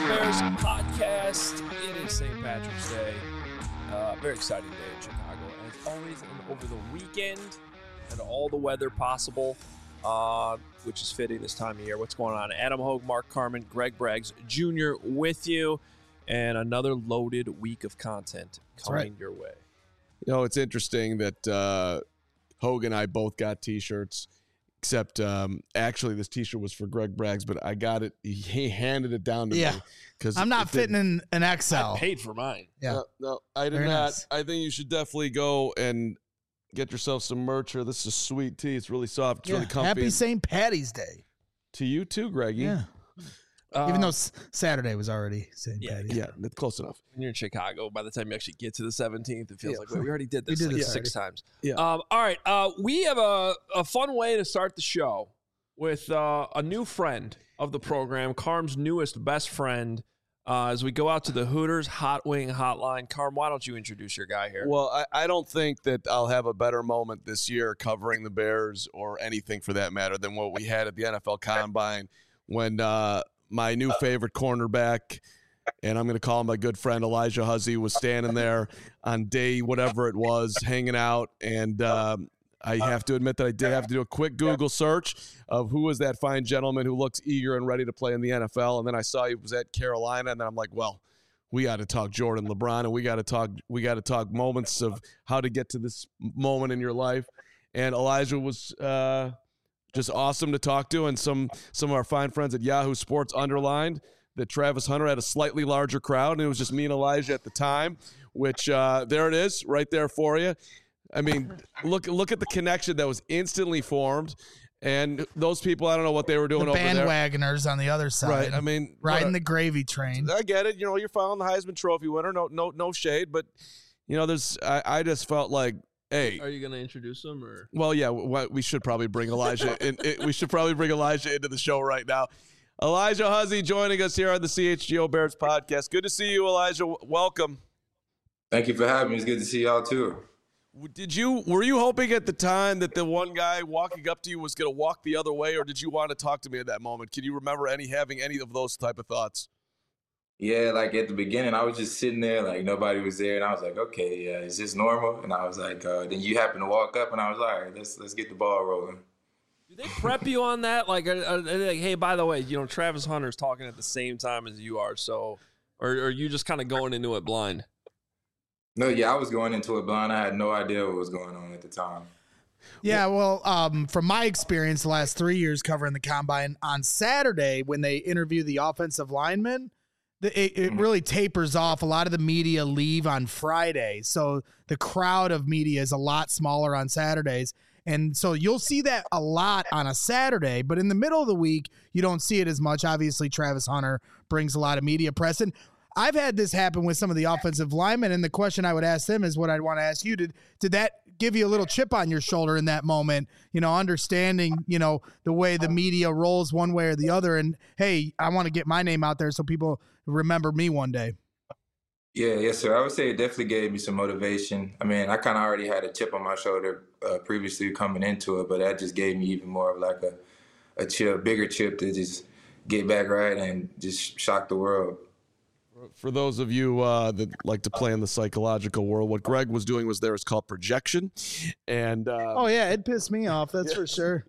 Bears podcast. It is St. Patrick's Day. Very exciting day in Chicago. As always, and over the weekend, and all the weather possible, which is fitting this time of year. What's going on? Adam Hogue, Mark Carman, Greg Braggs Jr. with you, and another loaded week of content coming your way. You know, it's interesting that Hogue and I both got T-shirts, except actually this T-shirt was for Greg Braggs, but I got it. He handed it down to me because I'm not fitting in an XL. I paid for mine. Yeah, no, I did Very not. nice. I think you should definitely go and get yourself some merch here. This is a sweet tee. It's really soft. It's really comfy. Happy St. Patty's Day. To you too, Greggy. Yeah. Even though Saturday was already St. Patty's. Yeah, that's close enough. When you're in Chicago, by the time you actually get to the 17th, it feels like, wait, we already did this We did like this 6 times. Yeah. All right. We have a fun way to start the show with a new friend of the program, Carm's newest best friend, as we go out to the Hooters Hot Wing Hotline. Carm, why don't you introduce your guy here? Well, I don't think that I'll have a better moment this year covering the Bears or anything for that matter than what we had at the NFL Combine when my new favorite cornerback, and I'm going to call him my good friend Elijah Huzzie, was standing there on day whatever it was, hanging out, and I have to admit that I did have to do a quick Google search of who was that fine gentleman who looks eager and ready to play in the NFL, and then I saw he was at Carolina, and then I'm like, well, we got to talk Jordan LeBron, and we got to talk moments of how to get to this moment in your life, and Elijah was just awesome to talk to, and some of our fine friends at Yahoo Sports underlined that Travis Hunter had a slightly larger crowd, and it was just me and Elijah at the time, which there it is right there for you. I mean, look at the connection that was instantly formed, and those people, I don't know what they were doing The over there. bandwagoners on the other side. Right, I mean, riding the gravy train. I get it. You know, you're following the Heisman Trophy winner. No shade, but you know, I just felt like, hey, Are you going to introduce him? Or? well, yeah, we should probably bring Elijah in. We should probably bring Elijah into the show right now. Elijah Huzzie joining us here on the CHGO Bears podcast. Good to see you, Elijah. Welcome. Thank you for having me. It's good to see y'all too. Were you hoping at the time that the one guy walking up to you was going to walk the other way, or did you want to talk to me at that moment? Can you remember having any of those type of thoughts? Yeah, like at the beginning, I was just sitting there, like nobody was there, and I was like, okay, yeah, is this normal? And I was like, then you happen to walk up, and I was like, all right, let's get the ball rolling. Do they prep you on that? Like, are they like, hey, by the way, you know, Travis Hunter's talking at the same time as you are, so, or are you just kind of going into it blind? No, yeah, I was going into it blind. I had no idea what was going on at the time. Yeah, well, from my experience the last 3 years covering the Combine, on Saturday when they interview the offensive linemen, it really tapers off. A lot of the media leave on Friday, so the crowd of media is a lot smaller on Saturdays. And so you'll see that a lot on a Saturday, but in the middle of the week, you don't see it as much. Obviously, Travis Hunter brings a lot of media press. And I've had this happen with some of the offensive linemen, and the question I would ask them is what I'd want to ask you. Did that give you a little chip on your shoulder in that moment, you know, understanding, you know, the way the media rolls one way or the other, and, hey, I want to get my name out there so people remember me one day? Yeah, yes, sir. I would say it definitely gave me some motivation. I mean, I kind of already had a chip on my shoulder previously coming into it, but that just gave me even more of like a chip, bigger chip to just get back right and just shock the world. For those of you that like to play in the psychological world, what Greg was doing is called projection, and Oh yeah, it pissed me off. That's for sure.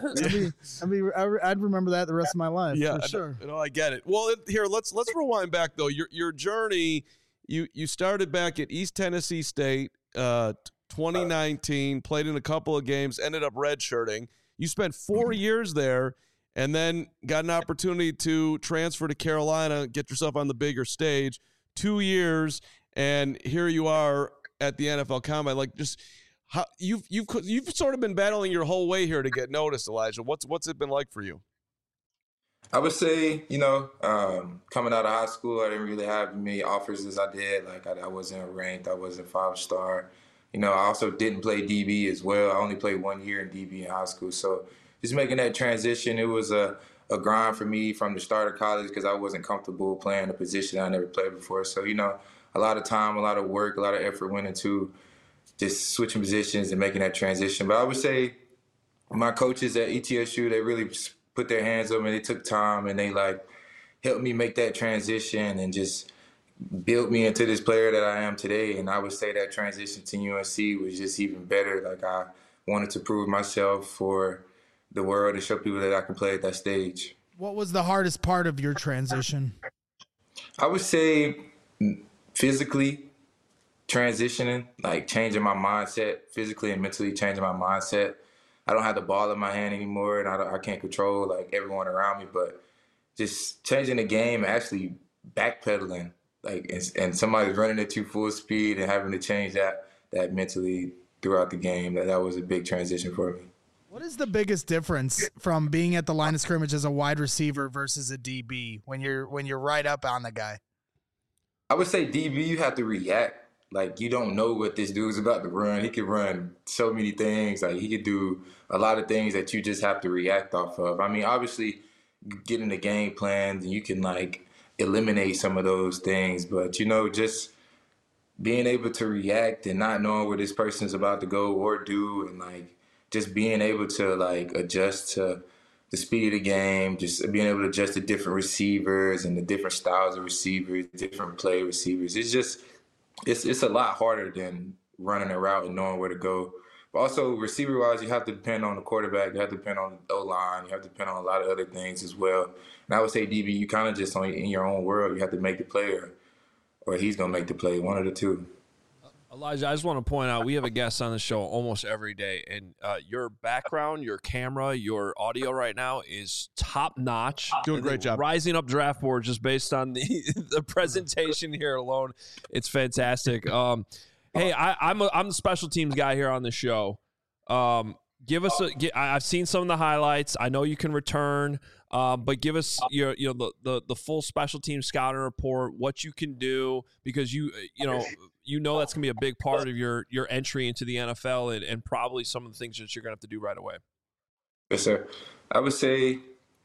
I'd remember that the rest of my life. yeah, for sure. You know, I get it. Well, here let's rewind back though. Your journey, you started back at East Tennessee State, 2019, played in a couple of games, ended up redshirting. You spent 4 years there. And then got an opportunity to transfer to Carolina, get yourself on the bigger stage. 2 years, and here you are at the NFL Combine. Like, just how you've sort of been battling your whole way here to get noticed, Elijah. What's it been like for you? I would say, you know, coming out of high school, I didn't really have many offers as I did. Like, I wasn't ranked. I wasn't 5-star. You know, I also didn't play DB as well. I only played 1 year in DB in high school. So just making that transition, it was a grind for me from the start of college because I wasn't comfortable playing a position I never played before. So, you know, a lot of time, a lot of work, a lot of effort went into just switching positions and making that transition. But I would say my coaches at ETSU, they really put their hands on me. They took time and they, like, helped me make that transition and just built me into this player that I am today. And I would say that transition to UNC was just even better. Like, I wanted to prove myself for the world and show people that I can play at that stage. What was the hardest part of your transition? I would say physically transitioning, like changing my mindset, physically and mentally changing my mindset. I don't have the ball in my hand anymore, and I can't control like everyone around me, but just changing the game and actually backpedaling, like, and somebody's running at you full speed and having to change that mentally throughout the game. That was a big transition for me. What is the biggest difference from being at the line of scrimmage as a wide receiver versus a DB when you're right up on the guy? I would say DB, you have to react. Like, you don't know what this dude's about to run. He could run so many things. Like, he could do a lot of things that you just have to react off of. I mean, obviously, getting the game plans, and you can, like, eliminate some of those things. But, you know, just being able to react and not knowing where this person's about to go or do, and, like, just being able to, like, adjust to the speed of the game, just being able to adjust to different receivers and the different styles of receivers, different play receivers. It's just – it's a lot harder than running a route and knowing where to go. But also, receiver-wise, you have to depend on the quarterback. You have to depend on the O-line. You have to depend on a lot of other things as well. And I would say, DB, you kind of just in your own world. You have to make the play, or he's going to make the play, one of the two. Elijah, I just want to point out, we have a guest on the show almost every day, and your background, your camera, your audio right now is top-notch. Doing a great job. Rising up draft board just based on the presentation here alone. It's fantastic. Hey, I'm the special teams guy here on the show. I've seen some of the highlights. I know you can return, but give us the full special team scouting report, what you can do, because you know that's gonna be a big part of your entry into the NFL and probably some of the things that you're gonna have to do right away. Yes, sir. I would say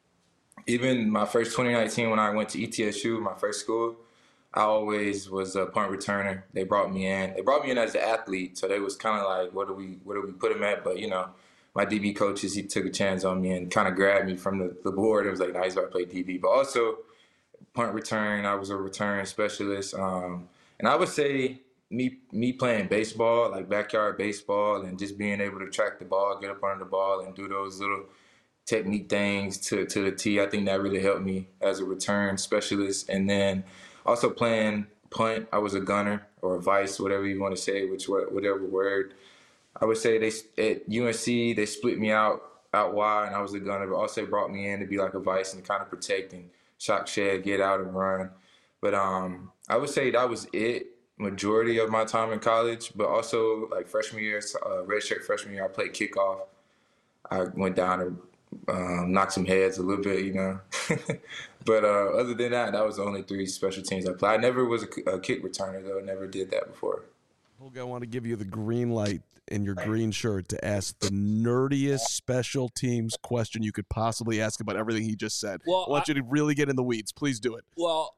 even my first 2019 when I went to ETSU, my first school, I always was a punt returner. They brought me in. They brought me in as an athlete, so they was kind of like, where do we put him at? But, you know, my DB coaches, he took a chance on me and kind of grabbed me from the board. It was like, nice, I play DB. But also, punt return, I was a return specialist. And I would say me playing baseball, like backyard baseball, and just being able to track the ball, get up under the ball, and do those little technique things to the T, I think that really helped me as a return specialist. And then also playing punt, I was a gunner or a vice, whatever you want to say, whatever word. I would say at UNC, they split me out wide, and I was a gunner, but also brought me in to be like a vice and kind of protect and shock shed, get out and run. But I would say that was it majority of my time in college, but also like freshman year, redshirt freshman year, I played kickoff. I went down and knocked some heads a little bit, you know. But other than that, that was the only 3 special teams I played. I never was a kick returner, though. Never did that before. Holga, I want to give you the green light in your green shirt to ask the nerdiest special teams question you could possibly ask about everything he just said. Well, I want you to really get in the weeds. Please do it. Well,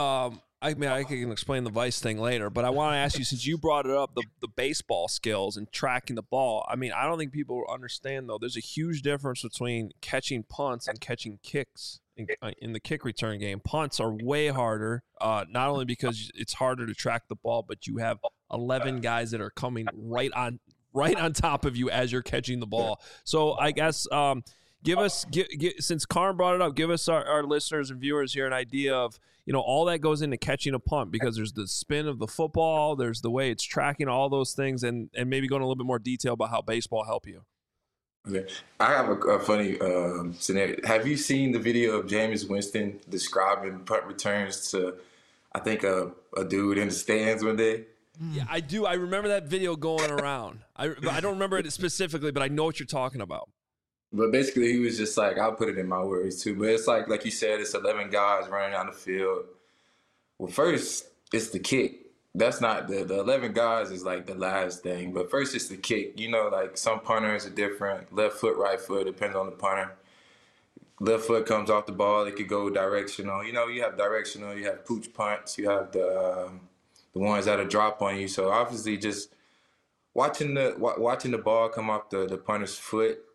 I mean, I can explain the Vice thing later, but I want to ask you, since you brought it up, the baseball skills and tracking the ball. I mean, I don't think people understand, though. There's a huge difference between catching punts and catching kicks in the kick return game. Punts are way harder, not only because it's harder to track the ball, but you have 11 guys that are coming right on top of you as you're catching the ball. So I guess give us, since Karn brought it up, give us our listeners and viewers here an idea of, you know, all that goes into catching a punt, because there's the spin of the football, there's the way it's tracking, all those things, and maybe go into a little bit more detail about how baseball help you. Okay. I have a funny scenario. Have you seen the video of Jameis Winston describing punt returns to, I think, a dude in the stands one day? Yeah, I do. I remember that video going around. I don't remember it specifically, but I know what you're talking about. But basically, he was just like, I'll put it in my words too, but it's like you said, it's 11 guys running down the field. Well, first, it's the kick. That's not the 11 guys is like the last thing, but first it's the kick. You know, like some punters are different. Left foot, right foot, depends on the punter. Left foot comes off the ball, it could go directional. You know, you have directional, you have pooch punts, you have the ones that'll drop on you. So obviously just watching the ball come off the punter's foot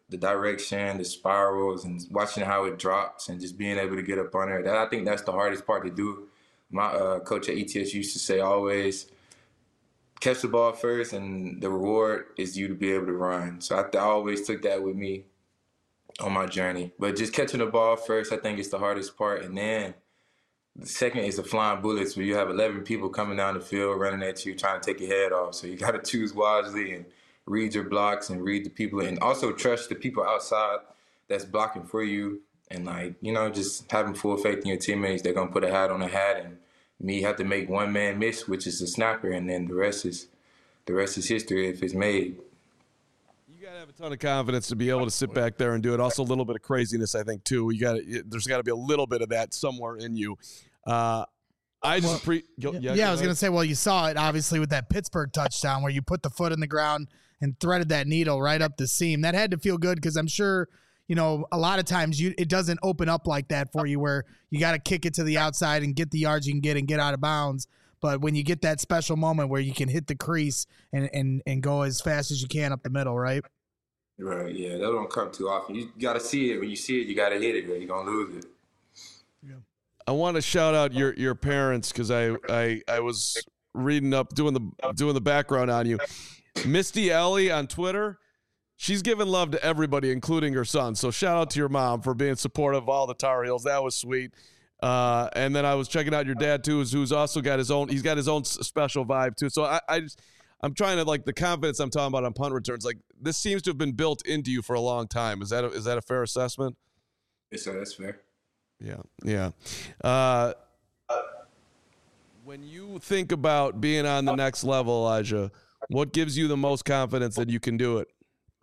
the direction, the spirals, and watching how it drops, and just being able to get up on there. I think that's the hardest part to do. My coach at ETS used to say always catch the ball first, and the reward is you to be able to run. So I always took that with me on my journey. But just catching the ball first, I think is the hardest part. And then the second is the flying bullets, where you have 11 people coming down the field running at you, trying to take your head off. So you got to choose wisely and read your blocks and read the people, and also trust the people outside that's blocking for you. And, just having full faith in your teammates. They're going to put a hat on a hat, and me have to make one man miss, which is the snapper, and then the rest is history if it's made. You got to have a ton of confidence to be able to sit back there and do it. Also, a little bit of craziness, I think, too. There's got to be a little bit of that somewhere in you. I was going to say, well, you saw it obviously with that Pittsburgh touchdown where you put the foot in the ground and threaded that needle right up the seam. That had to feel good, because I'm sure, a lot of times it doesn't open up like that for you, where you got to kick it to the outside and get the yards you can get and get out of bounds. But when you get that special moment where you can hit the crease and go as fast as you can up the middle, right? Right, yeah, that don't come too often. You got to see it. When you see it, you got to hit it, or you're going to lose it. Yeah. I want to shout out your parents, because I was reading up, doing the background on you. Misty Ellie on Twitter, she's giving love to everybody, including her son. So shout out to your mom for being supportive of all the Tar Heels. That was sweet. And then I was checking out your dad too, who's also got his own. He's got his own special vibe too. So I'm trying to, the confidence I'm talking about on punt returns. This seems to have been built into you for a long time. Is that a fair assessment? Yes, sir. That's fair. Yeah. When you think about being on the next level, Elijah, what gives you the most confidence that you can do it?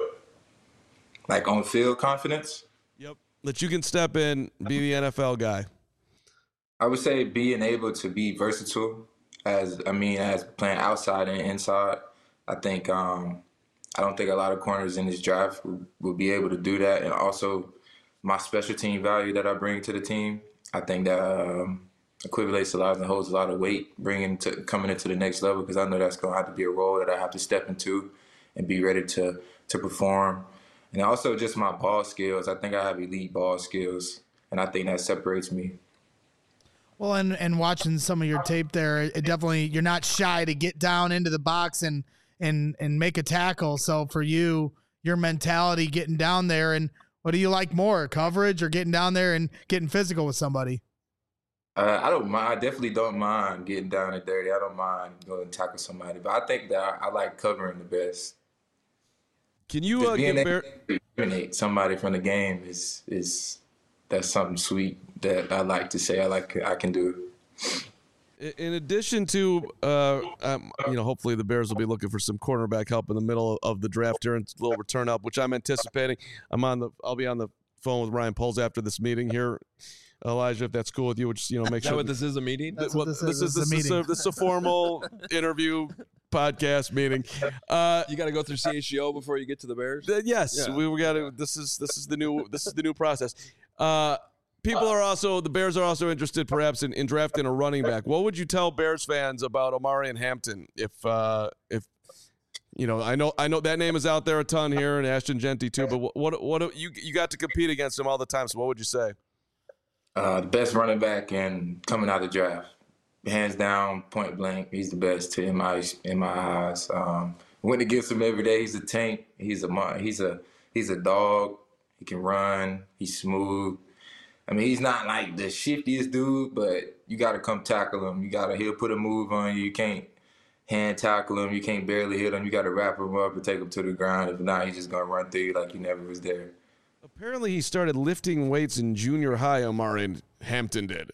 On field confidence? Yep. That you can step in, be the NFL guy. I would say being able to be versatile as playing outside and inside. I think I don't think a lot of corners in this draft will be able to do that. And also my special team value that I bring to the team, I think that equivalates a lot and holds a lot of weight coming into the next level, because I know that's going to have to be a role that I have to step into and be ready to perform. And also just my ball skills. I think I have elite ball skills, and I think that separates me. Well, and watching some of your tape there, it definitely, you're not shy to get down into the box and make a tackle. So for you, your mentality getting down there, and what do you like more, coverage or getting down there and getting physical with somebody? I don't mind. I definitely don't mind getting down and dirty. I don't mind going to tackle somebody, but I think that I like covering the best. Can you eliminate somebody from the game is that's something sweet that I like to say. I can do. In addition to, hopefully the Bears will be looking for some cornerback help in the middle of the draft during a little return up, which I'm anticipating. I'll be on the phone with Ryan Poles after this meeting here, Elijah, if that's cool with you. Which make sure. What this is a meeting. This is a formal interview podcast meeting. You got to go through CHGO before you get to the Bears. Yes, yeah. we got to. This is the new process. The Bears are also interested perhaps in drafting a running back. What would you tell Bears fans about Omarion Hampton? If I know that name is out there a ton here, and Ashton Jeanty too, but what you got to compete against him all the time, so what would you say? The best running back and coming out of the draft. Hands down, point blank, he's the best in my eyes. Went against him every day. He's a tank. He's a dog. He can run. He's smooth. I mean, he's not like the shiftiest dude, but you got to come tackle him. He'll put a move on you. You can't hand tackle him. You can't barely hit him. You got to wrap him up and take him to the ground. If not, he's just going to run through you like he never was there. Apparently, he started lifting weights in junior high. Omarion Hampton did.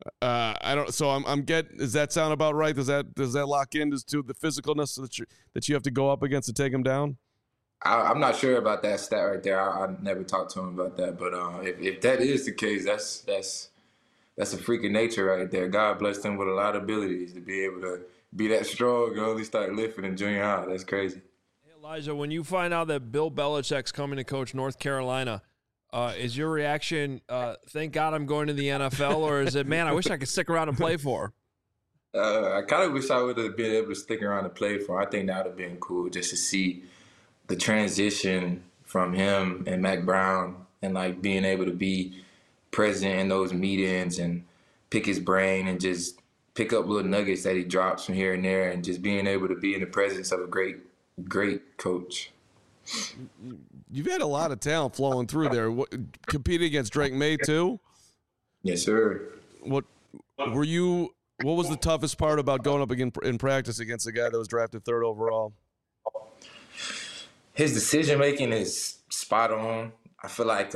Does that sound about right? Does that lock in to the physicalness that you have to go up against to take him down? I'm not sure about that stat right there. I never talked to him about that, but if that is the case, that's a freak of nature right there. God blessed him with a lot of abilities to be able to be that strong and only start lifting in junior high. That's crazy. Hey, Elijah, when you find out that Bill Belichick's coming to coach North Carolina, is your reaction, thank God I'm going to the NFL, or is it, man, I wish I could stick around and play for? I kind of wish I would have been able to stick around and play for. I think that would have been cool just to see the transition from him and Mac Brown, and like being able to be present in those meetings and pick his brain and just pick up little nuggets that he drops from here and there, and just being able to be in the presence of a great coach. You've had a lot of talent flowing through there. Competing against Drake May too? Yes, sir. What was the toughest part about going up again in practice against a guy that was drafted 3rd overall? His decision making is spot on. I feel like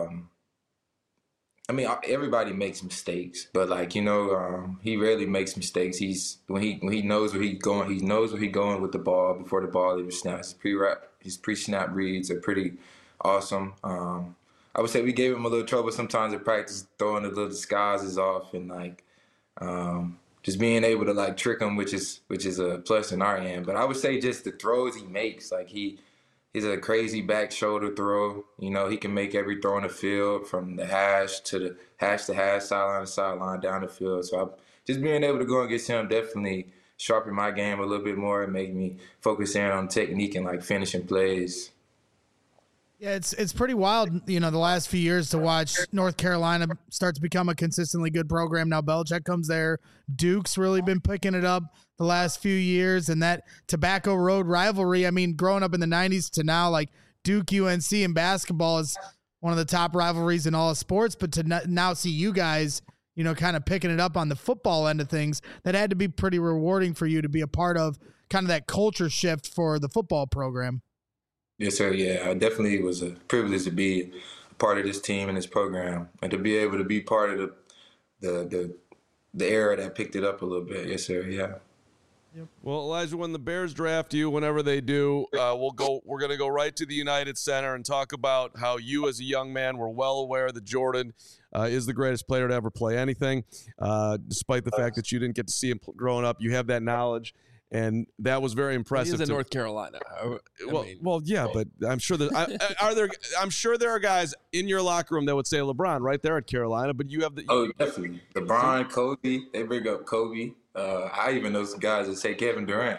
everybody makes mistakes, but he rarely makes mistakes. When he knows where he's going, he knows where he's going with the ball before the ball even snaps. His pre-snap reads are pretty awesome. I would say we gave him a little trouble sometimes in practice, throwing the little disguises off and just being able to trick him, which is a plus in our end. But I would say just the throws he makes, he's a crazy back shoulder throw. He can make every throw on the field from the hash to hash, sideline to sideline, down the field. So just being able to go against him definitely sharpen my game a little bit more and make me focus in on technique and finishing plays. Yeah, it's pretty wild, the last few years to watch North Carolina start to become a consistently good program. Now Belichick comes there. Duke's really been picking it up the last few years, and that Tobacco Road rivalry, growing up in the 90s to now, Duke UNC in basketball is one of the top rivalries in all of sports, but to now see you guys, kind of picking it up on the football end of things, that had to be pretty rewarding for you to be a part of kind of that culture shift for the football program. Yes, sir. Yeah, it definitely was a privilege to be a part of this team and this program, and to be able to be part of the era that picked it up a little bit. Yes, sir. Yeah. Well, Elijah, when the Bears draft you, whenever they do, we're going to go right to the United Center and talk about how you, as a young man, were well aware that Jordan is the greatest player to ever play anything, despite the fact that you didn't get to see him growing up. You have that knowledge. And that was very impressive. He's in North Carolina. Yeah, but I'm sure I'm sure there are guys in your locker room that would say LeBron right there at Carolina. But you have definitely LeBron, Kobe. They bring up Kobe. I even know some guys that say Kevin Durant.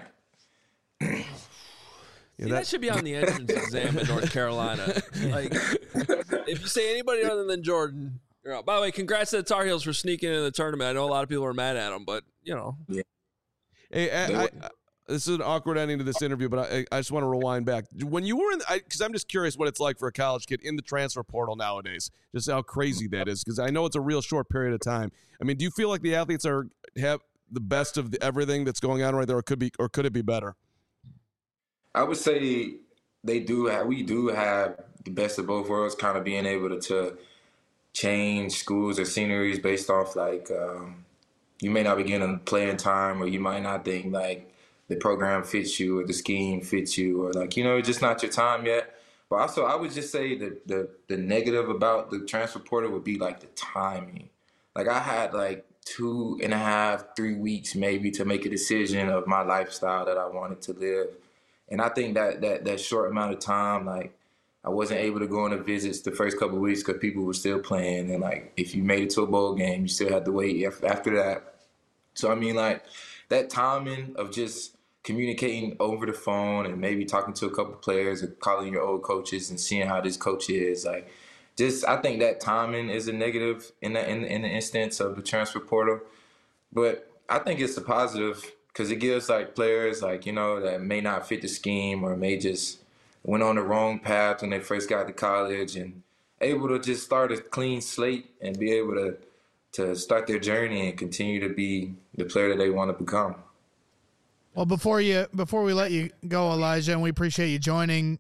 That should be on the entrance exam in North Carolina. If you say anybody other than Jordan, you're out. By the way, congrats to the Tar Heels for sneaking in the tournament. I know a lot of people are mad at them, but Yeah. Hey, this is an awkward ending to this interview, but I just want to rewind back. When you were because I'm just curious what it's like for a college kid in the transfer portal nowadays, just how crazy that is, because I know it's a real short period of time. Do you feel like the athletes have the best of everything that's going on right there, or could it be better? I would say we do have the best of both worlds, kind of being able to change schools or sceneries based off you may not be getting playing time, or you might not think the program fits you or the scheme fits you, or it's just not your time yet. But also, I would just say that the negative about the transfer portal would be the timing. I had 2.5, 3 weeks maybe to make a decision of my lifestyle that I wanted to live, and I think that short amount of time, I wasn't able to go on the visits the first couple of weeks because people were still playing. And if you made it to a bowl game, you still had to wait after that. So, that timing of just communicating over the phone and maybe talking to a couple of players or calling your old coaches and seeing how this coach is, I think that timing is a negative in the instance of the transfer portal. But I think it's a positive because it gives players that may not fit the scheme or may just went on the wrong path when they first got to college, and able to just start a clean slate and be able to start their journey and continue to be the player that they want to become. Well, before we let you go, Elijah, and we appreciate you joining,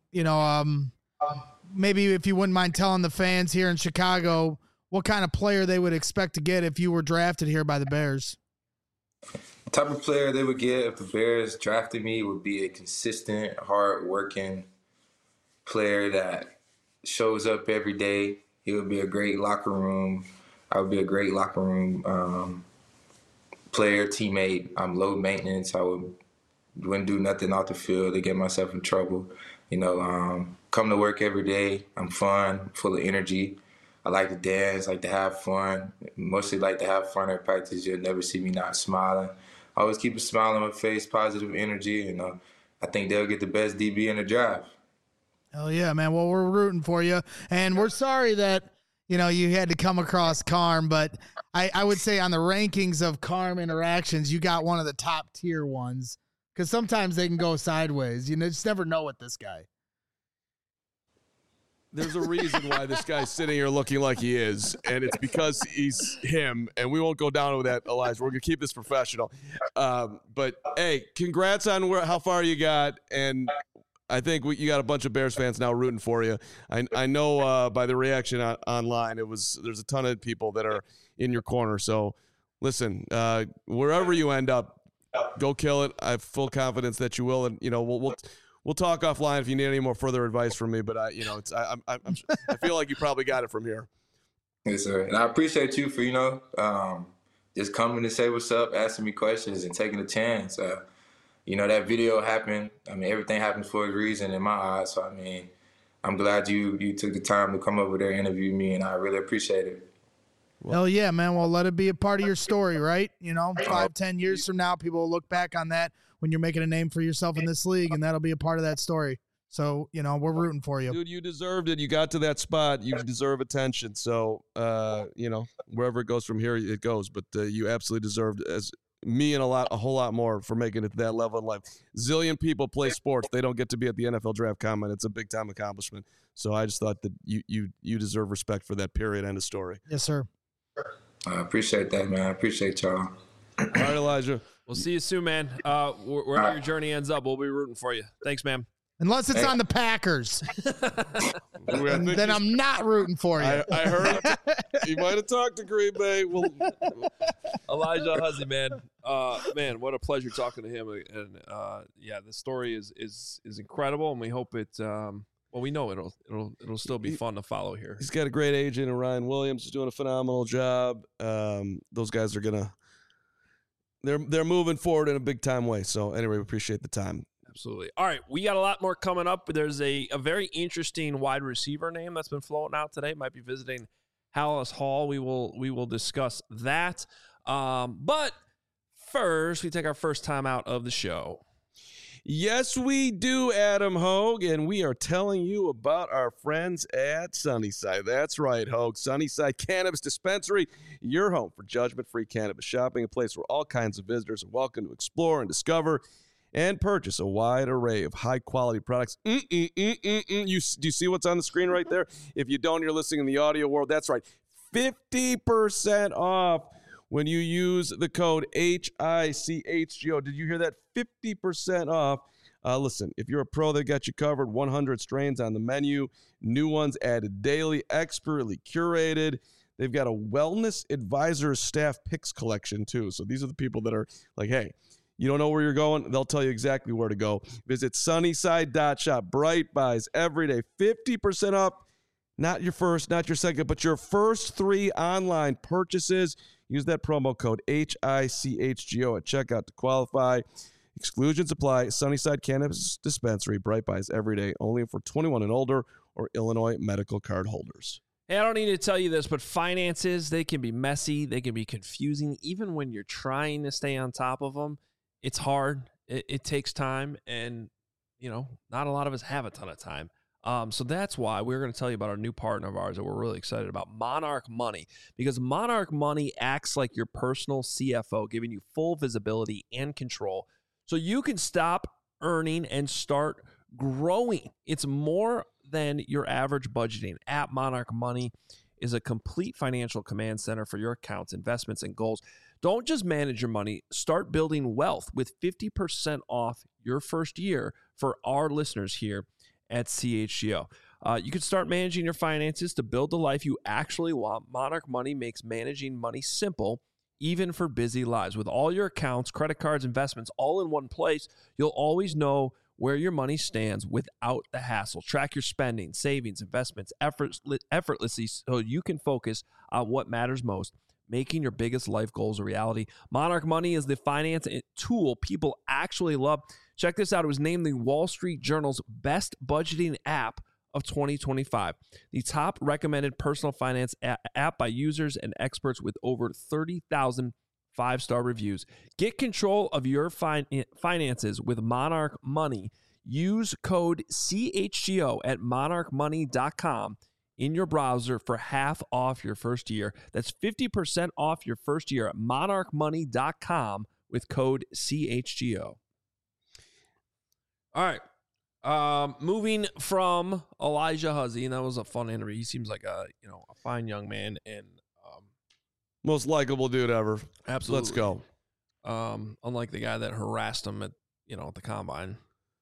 maybe if you wouldn't mind telling the fans here in Chicago what kind of player they would expect to get if you were drafted here by the Bears. The type of player they would get if the Bears drafted me would be a consistent, hard-working player that shows up every day. He would be a great locker room. I would be a great locker room player, teammate. I'm low maintenance. I wouldn't do nothing off the field to get myself in trouble. Come to work every day. I'm fun, full of energy. I like to dance, like to have fun. Mostly like to have fun at practice. You'll never see me not smiling. I always keep a smile on my face, positive energy, and I think they'll get the best DB in the draft. Hell yeah, man. Well, we're rooting for you, and we're sorry that you had to come across Carm, but I would say on the rankings of Carm interactions, you got one of the top tier ones, because sometimes they can go sideways. You just never know with this guy. There's a reason why this guy's sitting here looking like he is, and it's because he's him, and we won't go down with that, Elijah. We're going to keep this professional. But, hey, congrats on how far you got, and I think you got a bunch of Bears fans now rooting for you. I know by the reaction online, there's a ton of people that are in your corner. So, listen, wherever you end up, go kill it. I have full confidence that you will, and we'll talk offline if you need any more further advice from me. But I feel like you probably got it from here. Yes, sir. And I appreciate you for just coming to say what's up, asking me questions, and taking a chance. That video happened. Everything happens for a reason in my eyes. So, I'm glad you took the time to come over there and interview me, and I really appreciate it. Hell yeah, man. Well, let it be a part of your story, right? 5-10 years from now, people will look back on that when you're making a name for yourself in this league, and that'll be a part of that story. So, we're rooting for you. Dude, you deserved it. You got to that spot. You deserve attention. So, wherever it goes from here, it goes. But you absolutely deserved, as me and a whole lot more, for making it to that level in life. Zillion people play sports. They don't get to be at the NFL Draft Combine. It's a big-time accomplishment. So I just thought that you deserve respect for that, period. End of story. Yes, sir. I appreciate that, man. I appreciate y'all. All right, Elijah. We'll see you soon, man. Wherever your journey ends up, we'll be rooting for you. Thanks, man. Unless it's on the Packers. Then I'm not rooting for you. I heard he might have talked to Green Bay. Elijah Huzzie, man. Man, what a pleasure talking to him. And the story is incredible, and we hope it. We know it'll still be fun to follow here. He's got a great agent, and Ryan Williams is doing a phenomenal job. Those guys are they're moving forward in a big time way. So anyway, we appreciate the time. Absolutely. All right, we got a lot more coming up. There's a very interesting wide receiver name that's been floating out today. Might be visiting Halas Hall. We will discuss that. But first, we take our first time out of the show. Yes, we do, Adam Hogue, and we are telling you about our friends at Sunnyside. That's right, Hogue. Sunnyside Cannabis Dispensary, your home for judgment-free cannabis shopping, a place where all kinds of visitors are welcome to explore and discover and purchase a wide array of high-quality products. Do you see what's on the screen right there? If you don't, you're listening in the audio world. That's right, 50% off when you use the code HICHGO. Did you hear that? 50% off. Listen, if you're a pro, they got you covered. 100 strains on the menu. New ones added daily, expertly curated. They've got a wellness advisor staff picks collection, too. So these are the people that are like, hey, you don't know where you're going? They'll tell you exactly where to go. Visit sunnyside.shop. Bright buys every day. 50% off. Not your first, not your second, but your first 3 online purchases. Use that promo code HICHGO at checkout to qualify. Exclusions apply. Sunnyside Cannabis Dispensary. Bright buys every day. Only for 21 and older or Illinois medical card holders. Hey, I don't need to tell you this, but finances, they can be messy. They can be confusing. Even when you're trying to stay on top of them, it's hard. It takes time. And, not a lot of us have a ton of time. So that's why we're going to tell you about our new partner of ours that we're really excited about, Monarch Money, because Monarch Money acts like your personal CFO, giving you full visibility and control so you can stop earning and start growing. It's more than your average budgeting. At Monarch Money is a complete financial command center for your accounts, investments, and goals. Don't just manage your money. Start building wealth with 50% off your first year for our listeners here at CHGO. You can start managing your finances to build the life you actually want. Monarch Money makes managing money simple, even for busy lives. With all your accounts, credit cards, investments, all in one place, you'll always know where your money stands without the hassle. Track your spending, savings, investments effortlessly so you can focus on what matters most, making your biggest life goals a reality. Monarch Money is the finance tool people actually love. Check this out. It was named the Wall Street Journal's best budgeting app of 2025. The top recommended personal finance app by users and experts with over 30,000 5-star reviews. Get control of your finances with Monarch Money Use code CHGO at monarchmoney.com in your browser for half off your first year. That's 50% off your first year at monarchmoney.com with code CHGO. All right. Moving from Elijah Huzzy, and that was a fun interview. He seems like a fine young man and most likable dude ever. Absolutely. Let's go. Unlike the guy that harassed him at the combine.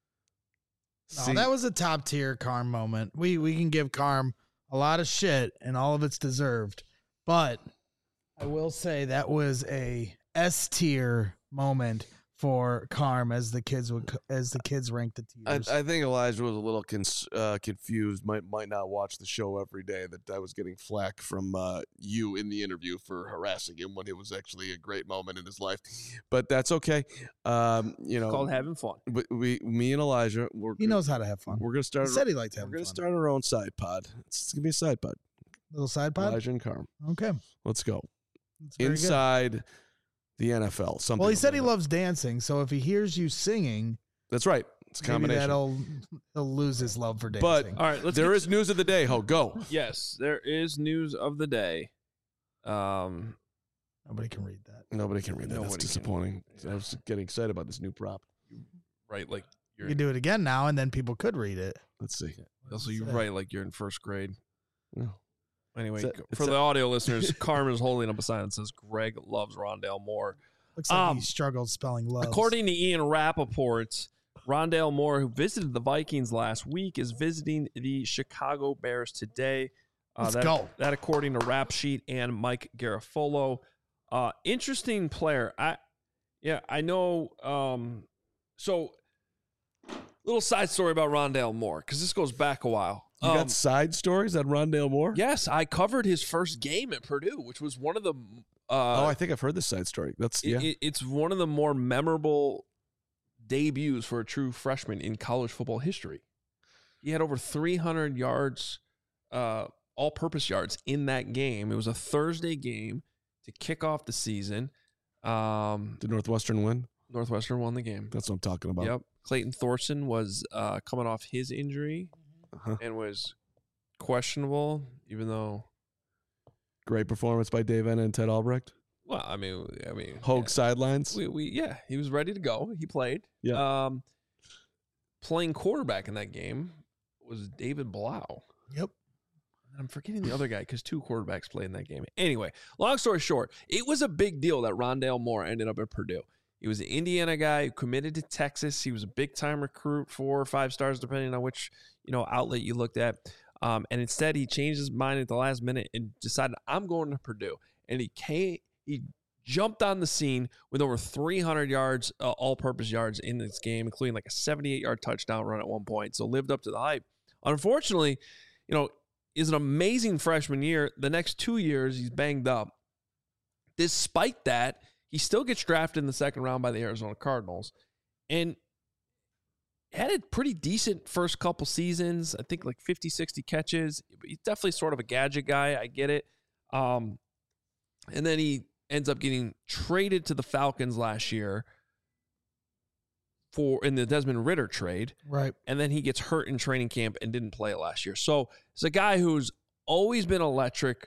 No, that was a top tier Carm moment. We can give Carm a lot of shit, and all of it's deserved. But I will say that was a S tier moment for Carm as the kids ranked the tiers. I think Elijah was a little confused. Might not watch the show every day. That I was getting flack from you in the interview for harassing him when it was actually a great moment in his life. But that's okay. It's called having fun. Me and Elijah, he knows how to have fun. We're gonna start. He said he liked having fun. We're gonna start our own side pod. It's gonna be a side pod. Little side pod. Elijah and Carm. Okay, let's go. That's very Inside good. the NFL. Well, he said he loves dancing, so if he hears you singing, that's right. It's a combination. Maybe he'll lose his love for dancing. But all right, there is news of the day. Ho, go. Yes, there is news of the day. Nobody can read that. Nobody can read that. That's disappointing. I was getting excited about this new prop. Right, like you can do it again now, and then people could read it. Let's see. Also, you write like you're in first grade. Yeah. Anyway, for the audio listeners, Carm is holding up a sign that says Greg loves Rondale Moore. Looks like he struggled spelling love. According to Ian Rappaport, Rondale Moore, who visited the Vikings last week, is visiting the Chicago Bears today. Let's go. That according to Rap Sheet and Mike Garafolo. Interesting player. I know. So, little side story about Rondale Moore, because this goes back a while. You got side stories on Rondale Moore? Yes, I covered his first game at Purdue, which was one of the. I think I've heard this side story. It's one of the more memorable debuts for a true freshman in college football history. He had over 300 yards, all-purpose yards in that game. It was a Thursday game to kick off the season. Did Northwestern win? Northwestern won the game. That's what I'm talking about. Yep. Clayton Thorson was coming off his injury and was questionable, even though. Great performance by Dave Enna and Ted Albrecht. Well, I mean, Hogue sidelines. He was ready to go. He played. Yeah. Playing quarterback in that game was David Blau. Yep. I'm forgetting the other guy because two quarterbacks played in that game. Anyway, long story short, it was a big deal that Rondale Moore ended up at Purdue. He was an Indiana guy who committed to Texas. He was a big-time recruit, 4 or 5 stars, depending on which outlet you looked at. And instead, he changed his mind at the last minute and decided, I'm going to Purdue. And he jumped on the scene with over 300 yards, all-purpose yards in this game, including like a 78-yard touchdown run at one point. So lived up to the hype. Unfortunately, is an amazing freshman year. The next 2 years, he's banged up. Despite that, he still gets drafted in the second round by the Arizona Cardinals. And had a pretty decent first couple seasons. I think like 50, 60 catches. He's definitely sort of a gadget guy. I get it. And then he ends up getting traded to the Falcons last year in the Desmond Ridder trade. Right. And then he gets hurt in training camp and didn't play it last year. So it's a guy who's always been electric.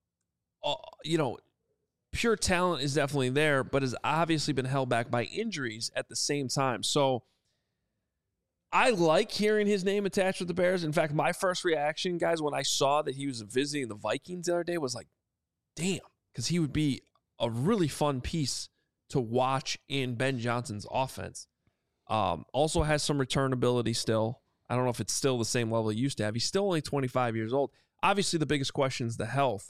Pure talent is definitely there, but has obviously been held back by injuries at the same time. So I like hearing his name attached with the Bears. In fact, my first reaction, guys, when I saw that he was visiting the Vikings the other day was like, damn, because he would be a really fun piece to watch in Ben Johnson's offense. Also has some return ability still. I don't know if it's still the same level he used to have. He's still only 25 years old. Obviously, the biggest question is the health.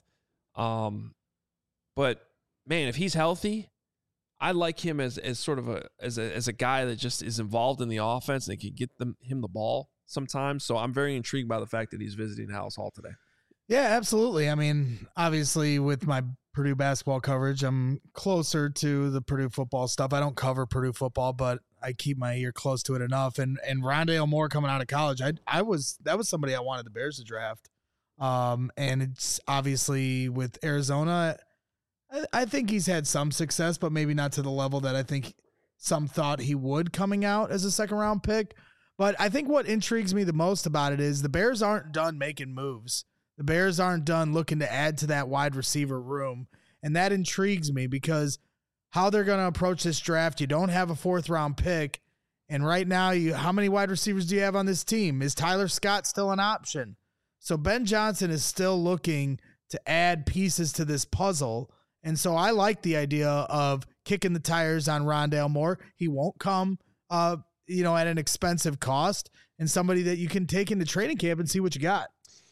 But man, if he's healthy, I like him as sort of a guy that just is involved in the offense and can get him the ball sometimes. So I'm very intrigued by the fact that he's visiting Hallis Hall today. Yeah, absolutely. I mean, obviously with my Purdue basketball coverage, I'm closer to the Purdue football stuff. I don't cover Purdue football, but I keep my ear close to it enough. And Rondale Moore coming out of college, that was somebody I wanted the Bears to draft. And it's obviously with Arizona, I think he's had some success, but maybe not to the level that I think some thought he would coming out as a second round pick. But I think what intrigues me the most about it is the Bears aren't done making moves. The Bears aren't done looking to add to that wide receiver room. And that intrigues me because how they're going to approach this draft, you don't have a 4th-round pick. And right now, how many wide receivers do you have on this team? Is Tyler Scott still an option? So Ben Johnson is still looking to add pieces to this puzzle. And so I like the idea of kicking the tires on Rondale Moore. He won't come, at an expensive cost, and somebody that you can take into training camp and see what you got.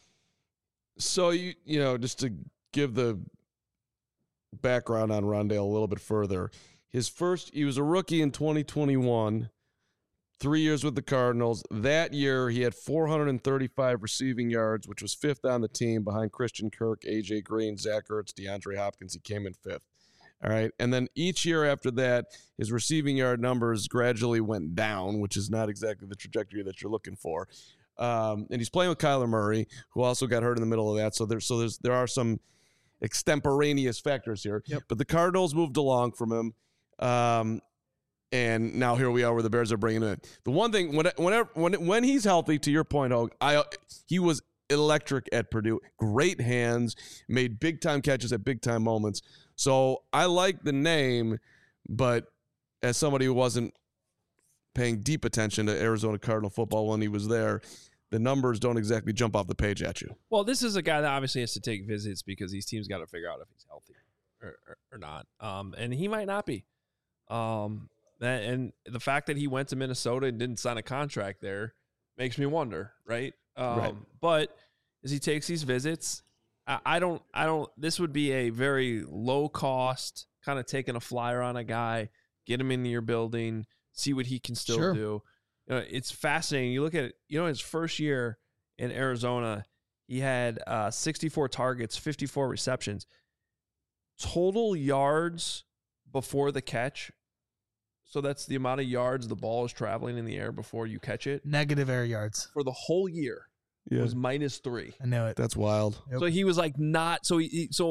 So, just to give the background on Rondale a little bit further, he was a rookie in 2021, 3 years with the Cardinals. That year, he had 435 receiving yards, which was 5th on the team behind Christian Kirk, A.J. Green, Zach Ertz, DeAndre Hopkins. He came in 5th. All right. And then each year after that, his receiving yard numbers gradually went down, which is not exactly the trajectory that you're looking for. And he's playing with Kyler Murray, who also got hurt in the middle of that. So there are some extemporaneous factors here. Yep. But the Cardinals moved along from him. And now here we are where the Bears are bringing him in. The one thing, when he's healthy, to your point, Hogue, he was electric at Purdue. Great hands, made big-time catches at big-time moments. So I like the name, but as somebody who wasn't paying deep attention to Arizona Cardinal football when he was there, the numbers don't exactly jump off the page at you. Well, this is a guy that obviously has to take visits because these teams got to figure out if he's healthy or not. And he might not be. And the fact that he went to Minnesota and didn't sign a contract there makes me wonder, right? Right. But as he takes these visits, I don't. This would be a very low cost kind of taking a flyer on a guy, get him into your building, see what he can still do. It's fascinating. You look at it. His first year in Arizona, he had 64 targets, 54 receptions, total yards before the catch. So that's the amount of yards the ball is traveling in the air before you catch it. Negative air yards. For the whole year, it was -3. I knew it. That's wild. Yep. So he was like not – so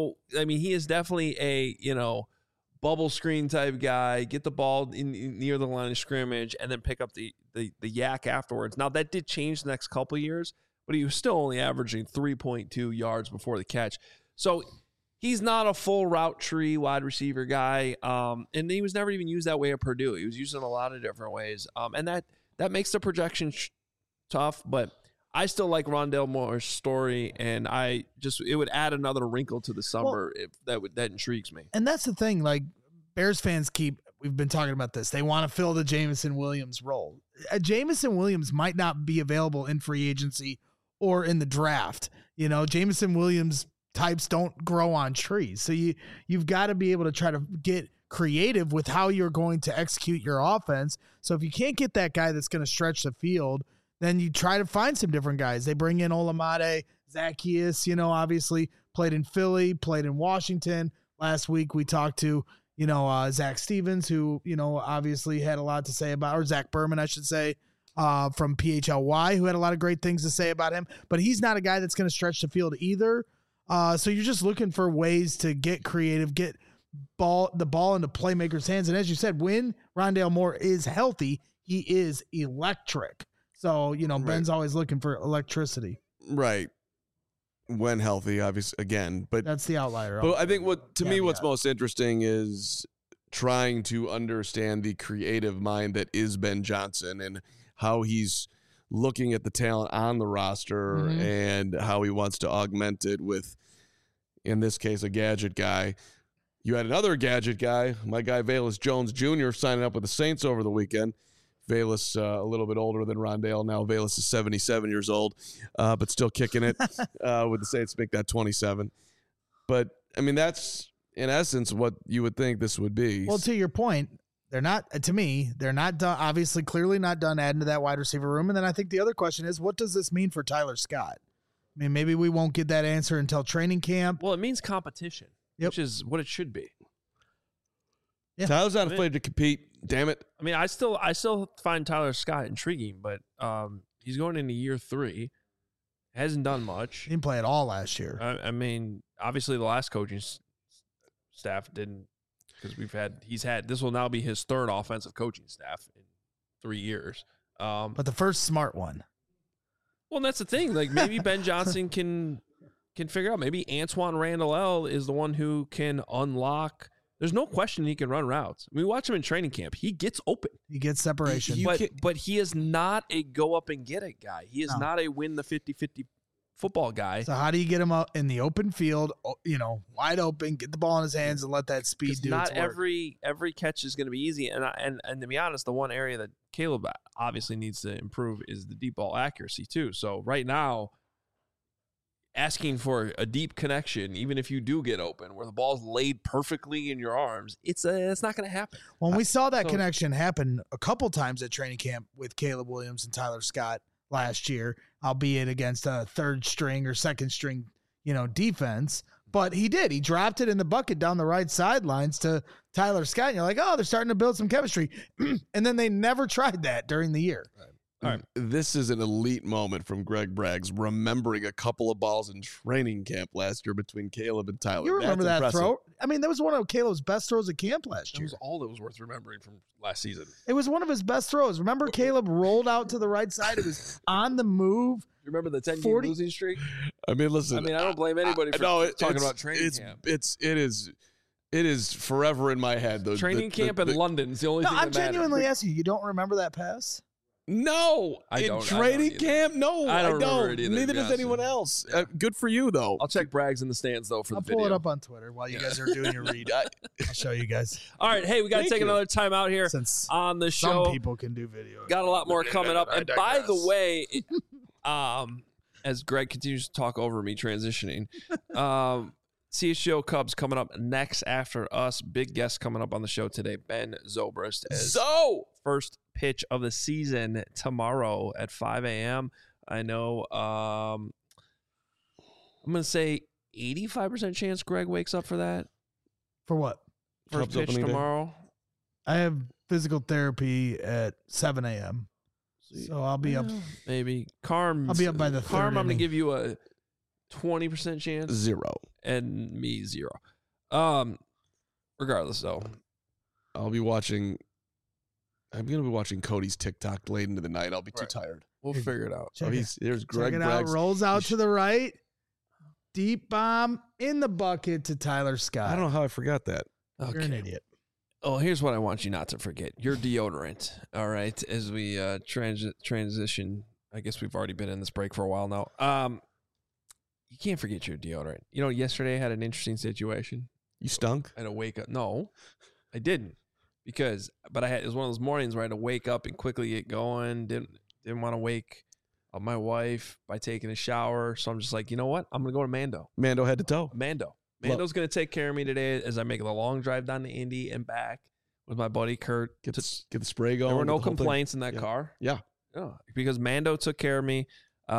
he is definitely a, bubble screen type guy, get the ball in near the line of scrimmage, and then pick up the yak afterwards. Now, that did change the next couple of years, but he was still only averaging 3.2 yards before the catch. So – he's not a full route tree wide receiver guy, and he was never even used that way at Purdue. He was used in a lot of different ways, and that makes the projection tough. But I still like Rondale Moore's story, and it would add another wrinkle to the summer if that intrigues me. And that's the thing, like Bears fans we've been talking about this. They want to fill the Jameson Williams role. Jameson Williams might not be available in free agency or in the draft. Jameson Williams types don't grow on trees. So you've got to be able to try to get creative with how you're going to execute your offense. So if you can't get that guy that's going to stretch the field, then you try to find some different guys. They bring in Olamide, Zacchaeus, obviously played in Philly, played in Washington. Last week we talked to, Zach Stevens, who, obviously had a lot to say about, or Zach Berman, I should say, from PHLY, who had a lot of great things to say about him. But he's not a guy that's going to stretch the field either. So you're just looking for ways to get creative, get the ball into playmakers' hands. And as you said, when Rondale Moore is healthy, he is electric. So, Ben's always looking for electricity. Right. When healthy, obviously, again. But that's the outlier. But I think what's most interesting is trying to understand the creative mind that is Ben Johnson and how he's looking at the talent on the roster and how he wants to augment it with, in this case, a gadget guy. You had another gadget guy, my guy Velus Jones Jr., signing up with the Saints over the weekend. Velus, a little bit older than Rondale. Now Velus is 77 years old, but still kicking it with the Saints to make that 27. But, that's, in essence, what you would think this would be. Well, to your point, they're not done, obviously, clearly not done adding to that wide receiver room. And then I think the other question is, what does this mean for Tyler Scott? Maybe we won't get that answer until training camp. Well, it means competition, which is what it should be. Yeah. Tyler's not afraid to compete. Damn it. I still find Tyler Scott intriguing, but he's going into year 3. Hasn't done much. He didn't play at all last year. Obviously the last coaching staff didn't, because this will now be his 3rd offensive coaching staff in 3 years. But the first smart one. Well, and that's the thing. Like maybe Ben Johnson can figure out. Maybe Antoine Randall L is the one who can unlock. There's no question he can run routes. I mean, we watch him in training camp. He gets open. He gets separation. But he is not a go up and get it guy. He is not a win the 50-50 football guy. So how do you get him out in the open field, wide open, get the ball in his hands and let that speed do its work? Not every catch is going to be easy. And to be honest, the one area that Caleb obviously needs to improve is the deep ball accuracy too. So right now, asking for a deep connection, even if you do get open, where the ball's laid perfectly in your arms, it's not going to happen. Well, we saw that connection happen a couple times at training camp with Caleb Williams and Tyler Scott last year, albeit against a third string or second string, defense. But he did. He dropped it in the bucket down the right sidelines to Tyler Scott. And you're like, oh, they're starting to build some chemistry. And then they never tried that during the year. Right. All right. This is an elite moment from Greg Braggs, remembering a couple of balls in training camp last year between Caleb and Tyler. You remember that throw? I mean, that was one of Caleb's best throws at camp last year. That was all that was worth remembering from last season. It was one of his best throws. Remember, Caleb rolled out to the right side. It was on the move. You remember the 10-game losing streak? I mean, listen. I don't blame anybody for talking about training camp. It is forever in my head. Training camp in London is the only thing that I'm genuinely asking you. Don't remember that pass? No, I don't. Training camp, no, I don't. Remember it either, Neither does anyone else. Good for you, though. I'll check Braggs in the stands though for the video. I'll pull it up on Twitter while you guys are doing your read. I'll show you guys. All right, hey, we got to take another time out here on the show. Some people can do video. Got a lot more coming up. And by the way, as Greg continues to talk over me transitioning, CHGO Cubs coming up next after us. Big guest coming up on the show today, Ben Zobrist. First pitch of the season tomorrow at 5 a.m. I know I'm going to say 85% chance Greg wakes up for that. For what? First pitch tomorrow. I have physical therapy at 7 a.m. So I'll be up. Maybe. Carm. I'll be up by the third I'm going to inning. give you a 20% chance. 0. And me 0. Regardless, though. I'm going to be watching Cody's TikTok late into the night. I'll be too tired. We'll figure it out. There's Greg Check it out. Braggs. Rolls out to the right. Deep bomb in the bucket to Tyler Scott. I don't know how I forgot that. You're an idiot. Oh, here's what I want you not to forget. Your deodorant, all right, as we transition. I guess we've already been in this break for a while now. You can't forget your deodorant. Yesterday I had an interesting situation. You stunk? I had to wake up. No, I didn't. It was one of those mornings where I had to wake up and quickly get going. Didn't want to wake up my wife by taking a shower. So I'm just like, you know what? I'm going to go to Mando. Mando head to toe. Mando's going to take care of me today as I make the long drive down to Indy and back with my buddy Kurt. Get the spray going. There were no complaints in that car. Yeah. Because Mando took care of me.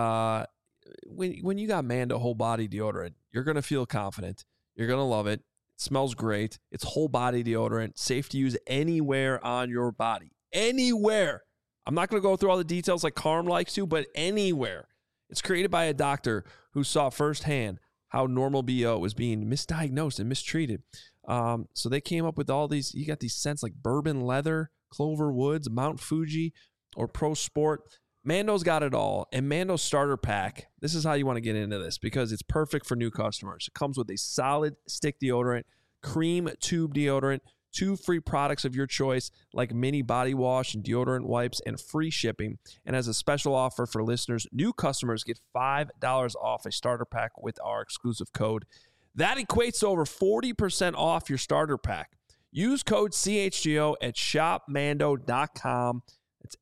When you got Mando whole body deodorant, you're going to feel confident. You're going to love it. It smells great. It's whole body deodorant, safe to use anywhere on your body. Anywhere. I'm not going to go through all the details like Carm likes to, but anywhere. It's created by a doctor who saw firsthand how normal BO was being misdiagnosed and mistreated. So they came up with all these. You got these scents like bourbon leather, Clover Woods, Mount Fuji, or Pro Sport. Mando's got it all. And Mando's starter pack, this is how you want to get into this because it's perfect for new customers. It comes with a solid stick deodorant, cream tube deodorant, 2 free products of your choice like mini body wash and deodorant wipes, and free shipping. And as a special offer for listeners, new customers get $5 off a starter pack with our exclusive code. That equates to over 40% off your starter pack. Use code CHGO at shopmando.com. It's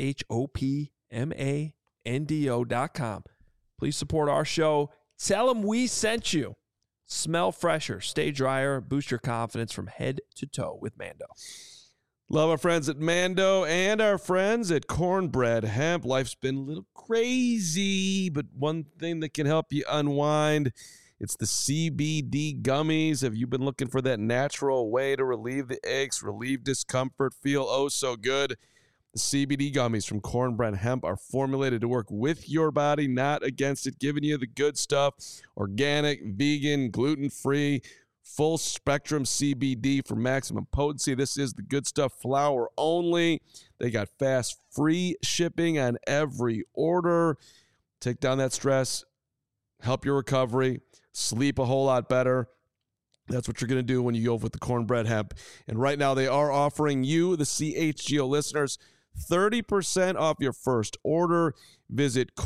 SHOPMANDO.com. Please support our show. Tell them we sent you. Smell fresher, stay drier, boost your confidence from head to toe with Mando. Love our friends at Mando and our friends at Cornbread Hemp. Life's been a little crazy, but one thing that can help you unwind, it's the CBD gummies. Have you been looking for that natural way to relieve the aches, relieve discomfort, feel oh so good? The CBD gummies from Cornbread Hemp are formulated to work with your body, not against it, giving you the good stuff. Organic, vegan, gluten-free, full spectrum CBD for maximum potency. This is the Good Stuff flower only. They got fast, free shipping on every order. Take down that stress, help your recovery, sleep a whole lot better. That's what you're going to do when you go with the cornbread hemp. And right now they are offering you, the CHGO listeners, 30% off your first order. Visit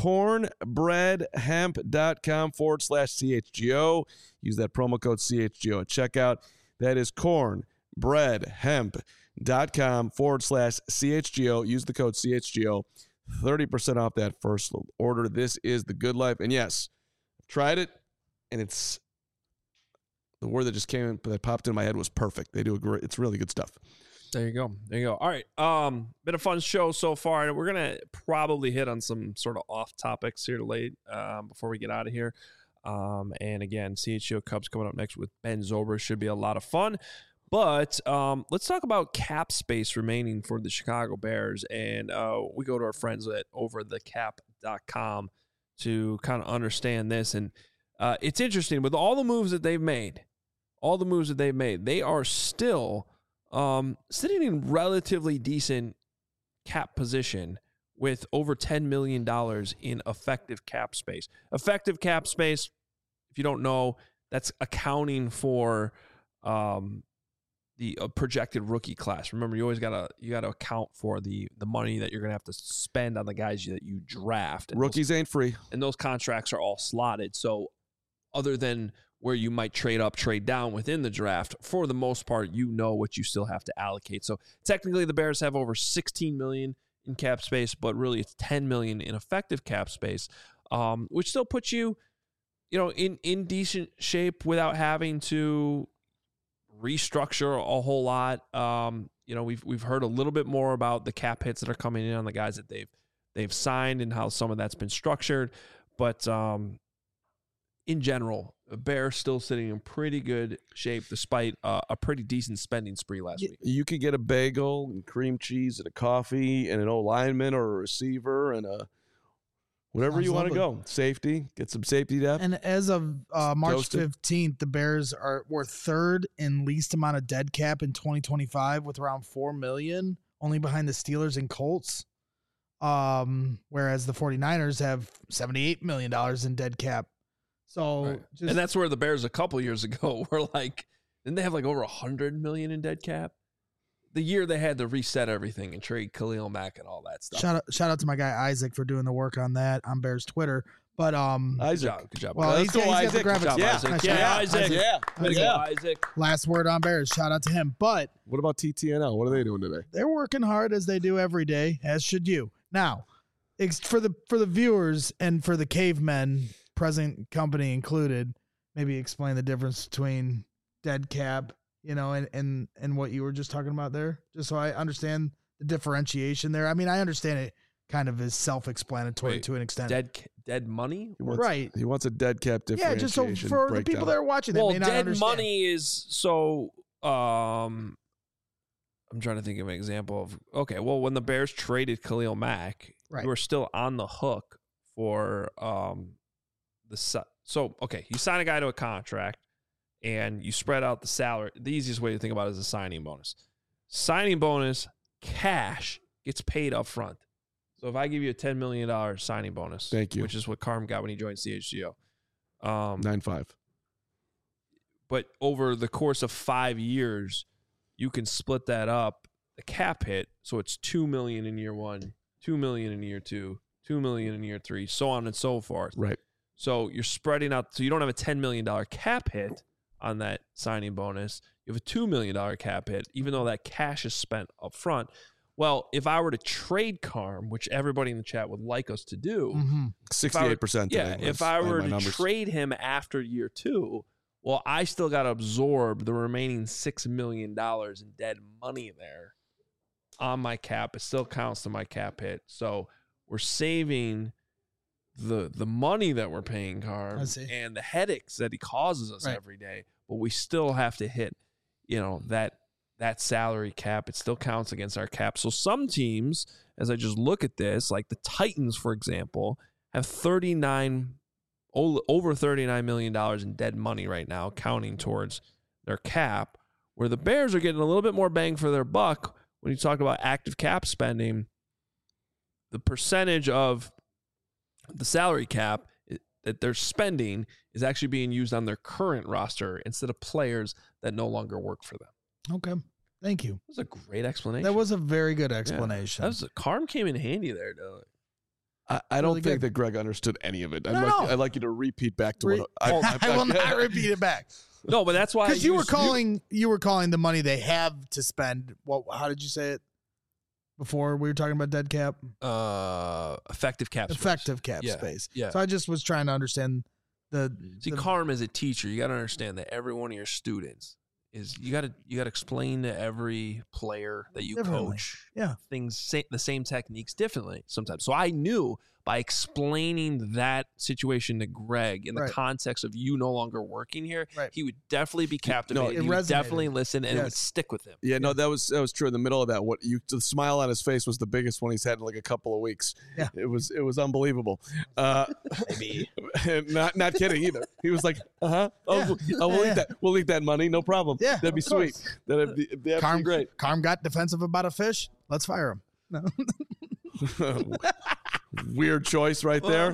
cornbreadhemp.com/CHGO. Use that promo code CHGO at checkout. That is cornbreadhemp.com/CHGO. Use the code CHGO. 30% off that first order. This is the Good Life. And yes, I've tried it, and it's the word that just came in, that popped in my head was perfect. They do it's really good stuff. There you go. All right. Been a fun show so far, and we're gonna probably hit on some sort of off topics here late before we get out of here. And again, CHGO Cubs coming up next with Ben Zobrist. Should be a lot of fun. But let's talk about cap space remaining for the Chicago Bears. And we go to our friends at overthecap.com to kind of understand this. And it's interesting. With all the moves that they've made, they are still sitting in relatively decent cap position with over $10 million in effective cap space. Effective cap space, if you don't know, that's accounting for the projected rookie class. Remember, you always gotta account for the money that you're gonna have to spend on the guys that you draft. And Rookies ain't free, and those contracts are all slotted. So, other than where you might trade up, trade down within the draft, for the most part, you know what you still have to allocate. So technically, the Bears have over $16 million in cap space, but really it's $10 million in effective cap space, which still puts you, in decent shape without having to restructure a whole lot. We've heard a little bit more about the cap hits that are coming in on the guys that they've signed and how some of that's been structured, but in general, the Bears still sitting in pretty good shape despite a pretty decent spending spree last week. You could get a bagel and cream cheese and a coffee and an lineman or a receiver and a whatever you want to go. Safety, get some safety depth. And as of March 15th, the Bears were third in least amount of dead cap in 2025 with around $4 million, only behind the Steelers and Colts. Whereas the 49ers have $78 million in dead cap. So, right. And that's where the Bears a couple years ago were like, didn't they have like over $100 million in dead cap? The year they had to reset everything and trade Khalil Mack and all that stuff. Shout out to my guy Isaac for doing the work on that on Bears Twitter. But Isaac, good job. Well, he's got the graphics. Isaac. Last word on Bears. Shout out to him. But what about TTNL? What are they doing today? They're working hard as they do every day, as should you. Now, for the viewers and for the cavemen, present company included, maybe explain the difference between dead cap, and what you were just talking about there, just so I understand the differentiation there. I mean, I understand it kind of is self-explanatory to an extent. Dead money? Right. He wants a dead cap differentiation. Yeah, just so for the people that are watching that may not dead understand. Money is so I'm trying to think of an example of, when the Bears traded Khalil Mack, you were still on the hook for you sign a guy to a contract and you spread out the salary. The easiest way to think about it is a signing bonus. Signing bonus, cash, gets paid up front. So if I give you a $10 million signing bonus, thank you, which is what Carm got when he joined CHGO. 9.5. But over the course of 5 years, you can split that up, the cap hit, so it's $2 million in year one, $2 million in year two, $2 million in year three, so on and so forth. Right. So you're spreading out, so you don't have a $10 million cap hit on that signing bonus. You have a $2 million cap hit, even though that cash is spent up front. Well, if I were to trade Carm, which everybody in the chat would like us to do, 68%. If I were to trade him after year two, well, I still got to absorb the remaining $6 million in dead money there on my cap. It still counts to my cap hit. So we're saving the money that we're paying Carm and the headaches that he causes us every day, but we still have to hit, that salary cap. It still counts against our cap. So some teams, as I just look at this, like the Titans, for example, have over $39 million in dead money right now, counting towards their cap, where the Bears are getting a little bit more bang for their buck when you talk about active cap spending. The percentage of the salary cap that they're spending is actually being used on their current roster instead of players that no longer work for them. Okay. Thank you. That was a great explanation. That was a very good explanation. Yeah. Carm came in handy there, though. I don't think that Greg understood any of it. I'd like you to repeat back to what I will not repeat it back. No, but that's why because you were calling the money they have to spend. How did you say it before we were talking about dead cap? Effective cap space. Yeah. So I just was trying to understand Carm as a teacher, you got to understand that every one of your students is you got to explain to every player that you coach the same techniques differently sometimes. So I knew by explaining that situation to Greg in the context of you no longer working here, he would definitely be captivated. He would definitely listen, and it would stick with him. Yeah, no, that was true. In the middle of that, the smile on his face was the biggest one he's had in like a couple of weeks. Yeah, it was unbelievable. Maybe not kidding either. He was like, we'll eat that money, no problem. Yeah, that'd be sweet. That'd be absolutely great. Carm got defensive about a fish. Let's fire him. No. Weird choice right there.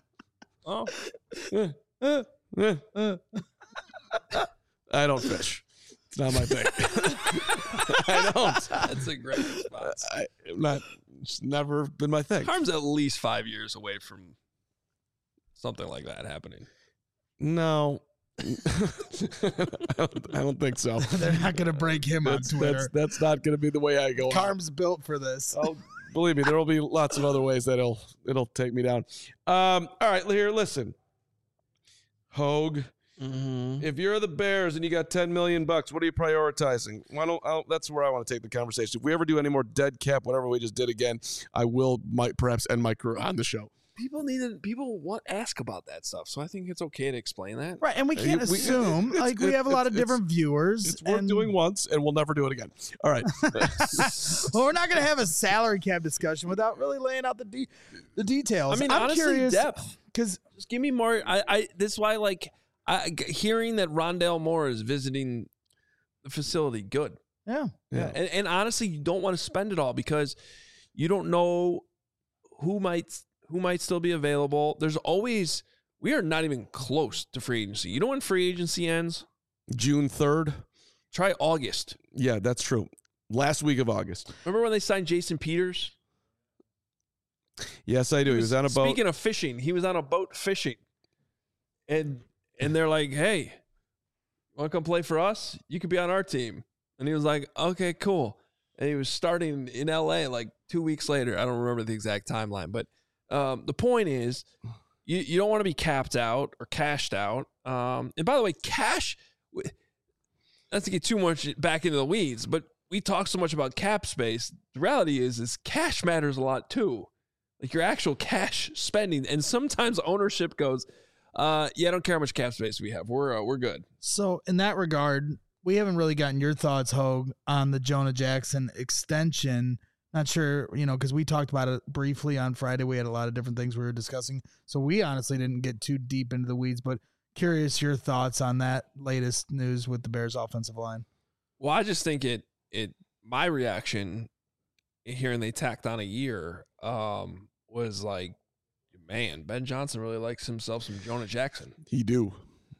I don't fish. It's not my thing. I don't. That's a great response. It's never been my thing. Carm's at least 5 years away from something like that happening. No. I don't think so. They're not going to break him on Twitter. That's not going to be the way I go. Carm's built for this. Oh, believe me, there will be lots of other ways that it'll take me down. All right, here, listen. Hogue, if you're the Bears and you got $10 million, what are you prioritizing? That's where I want to take the conversation. If we ever do any more dead cap, whatever we just did again, I might perhaps end my career on the show. People ask about that stuff, so I think it's okay to explain that. Right, and we can't assume. We have a lot of different viewers. It's worth doing once, and we'll never do it again. All right. Well, we're not going to have a salary cap discussion without really laying out the details. I mean, I'm honestly, curious, depth. Because just give me more. This is why, hearing that Rondale Moore is visiting the facility, good. Yeah. And honestly, you don't want to spend it all because you don't know who might still be available. We are not even close to free agency. You know when free agency ends? June 3rd. Try August. Yeah, that's true. Last week of August. Remember when they signed Jason Peters? Yes, I do. He was on a boat. Speaking of fishing, he was on a boat fishing. And they're like, hey, want to come play for us? You could be on our team. And he was like, okay, cool. And he was starting in LA 2 weeks later. I don't remember the exact timeline, but the point is, you don't want to be capped out or cashed out. And by the way, cash, not to get too much back into the weeds, but we talk so much about cap space. The reality is cash matters a lot too. Like your actual cash spending. And sometimes ownership goes, I don't care how much cap space we have. We're good. So in that regard, we haven't really gotten your thoughts, Hogue, on the Jonah Jackson extension. Not sure, because we talked about it briefly on Friday. We had a lot of different things we were discussing. So we honestly didn't get too deep into the weeds, but curious your thoughts on that latest news with the Bears offensive line. Well, I just think my reaction hearing they tacked on a year was like, man, Ben Johnson really likes himself some Jonah Jackson. He do.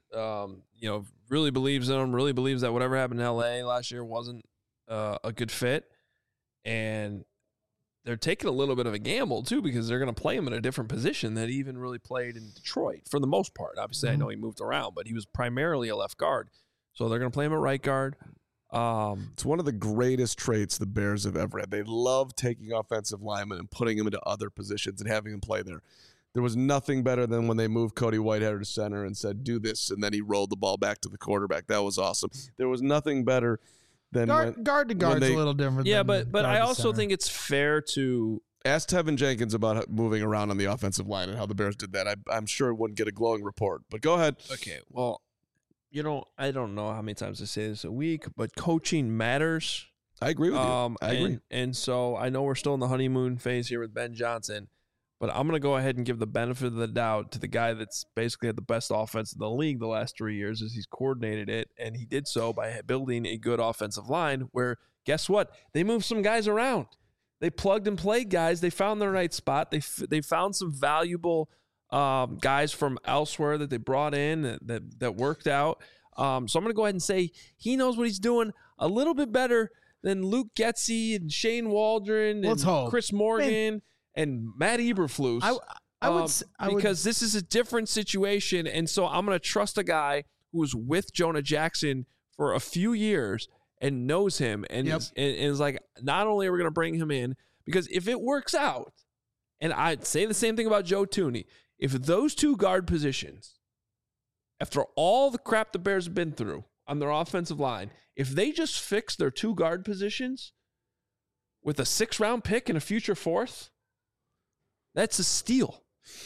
Really believes in him, really believes that whatever happened in LA last year wasn't a good fit. And they're taking a little bit of a gamble, too, because they're going to play him in a different position that he even really played in Detroit for the most part. Obviously, I know he moved around, but he was primarily a left guard. So they're going to play him at right guard. It's one of the greatest traits the Bears have ever had. They love taking offensive linemen and putting them into other positions and having them play there. There was nothing better than when they moved Cody Whitehair to center and said, do this, and then he rolled the ball back to the quarterback. That was awesome. There was nothing better than guard to guard's a little different. Yeah, but I also think it's fair to ask Tevin Jenkins about moving around on the offensive line and how the Bears did that. I'm sure it wouldn't get a glowing report, but go ahead. Okay, well, I don't know how many times I say this a week, but coaching matters. I agree with you. I agree. And so I know we're still in the honeymoon phase here with Ben Johnson, But I'm going to go ahead and give the benefit of the doubt to the guy that's basically had the best offense in the league the last 3 years as he's coordinated it. And he did so by building a good offensive line where, guess what? They moved some guys around. They plugged and played guys. They found their right spot. They found some valuable guys from elsewhere that they brought in that worked out. So I'm going to go ahead and say he knows what he's doing a little bit better than Luke Getsy and Shane Waldron and Chris Morgan and Matt Eberflus. Because this is a different situation. And so I'm going to trust a guy who was with Jonah Jackson for a few years and knows him and is like, not only are we going to bring him in, because if it works out, and I'd say the same thing about Joe Thuney, if those two guard positions, after all the crap the Bears have been through on their offensive line, if they just fix their two guard positions with a 6th-round pick and a future 4th, that's a steal.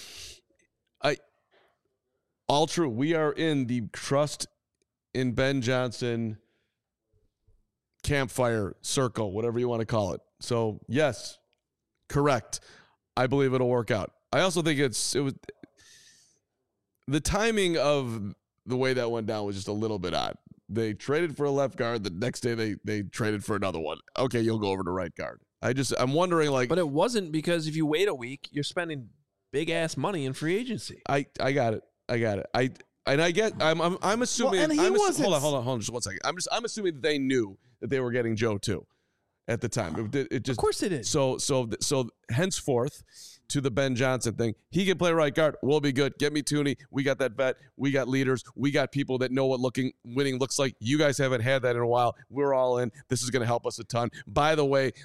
All true. We are in the trust in Ben Johnson campfire circle, whatever you want to call it. So, yes, correct. I believe it'll work out. I also think it was the timing of the way that went down was just a little bit odd. They traded for a left guard. The next day they traded for another one. Okay, you'll go over to right guard. I'm wondering, like, but it wasn't, because if you wait a week, you're spending big ass money in free agency. I got it. I'm assuming. Hold on. Just 1 second. I'm assuming that they knew that they were getting Joe too at the time. It just, of course they did. So henceforth, to the Ben Johnson thing, he can play right guard. We'll be good. Get me Thuney. We got that vet. We got leaders. We got people that know what winning looks like. You guys haven't had that in a while. We're all in. This is going to help us a ton. By the way,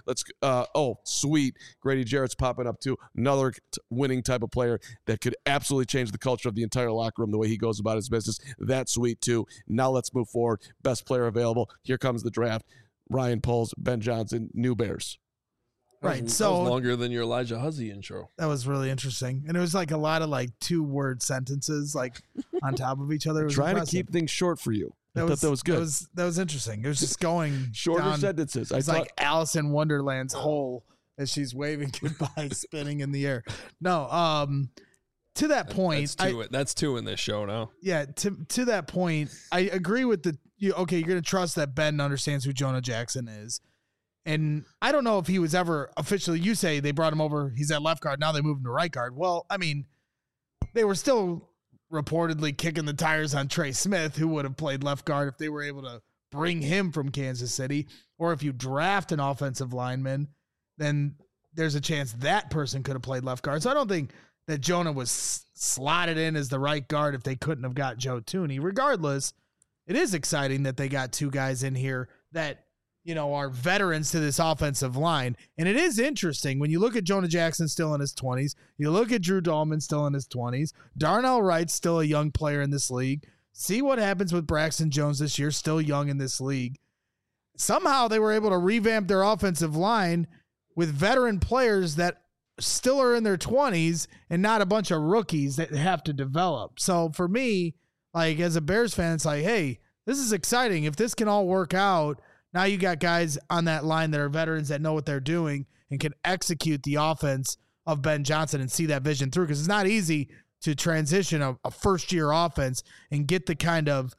sweet. Grady Jarrett's popping up too. Another winning type of player that could absolutely change the culture of the entire locker room, the way he goes about his business. That's sweet too. Now let's move forward. Best player available. Here comes the draft. Ryan Poles, Ben Johnson, new Bears. Right. That was so longer than your Elijah Huzzy intro. That was really interesting. And it was like a lot of like 2-word sentences like on top of each other. It was trying impressive. to keep things short for you. I thought that was good. That was interesting. It was just going shorter down, sentences. It's like Alice in Wonderland's hole as she's waving goodbye, spinning in the air. No, to that point, that's two in this show now. Yeah, to that point, I agree with you're going to trust that Ben understands who Jonah Jackson is. And I don't know if he was ever officially, you say they brought him over, he's at left guard, now they moved him to right guard. Well, I mean, they were still reportedly kicking the tires on Trey Smith, who would have played left guard if they were able to bring him from Kansas City. Or if you draft an offensive lineman, then there's a chance that person could have played left guard. So I don't think that Jonah was slotted in as the right guard if they couldn't have got Joe Thuney. Regardless, it is exciting that they got two guys in here that, are veterans to this offensive line. And it is interesting when you look at Jonah Jackson still in his 20s, you look at Drew Dahlman still in his 20s, Darnell Wright's still a young player in this league. See what happens with Braxton Jones this year, still young in this league. Somehow they were able to revamp their offensive line with veteran players that still are in their 20s and not a bunch of rookies that have to develop. So for me, like as a Bears fan, it's like, hey, this is exciting. If this can all work out, now you got guys on that line that are veterans that know what they're doing and can execute the offense of Ben Johnson and see that vision through. Because it's not easy to transition a first-year offense and get the kind of,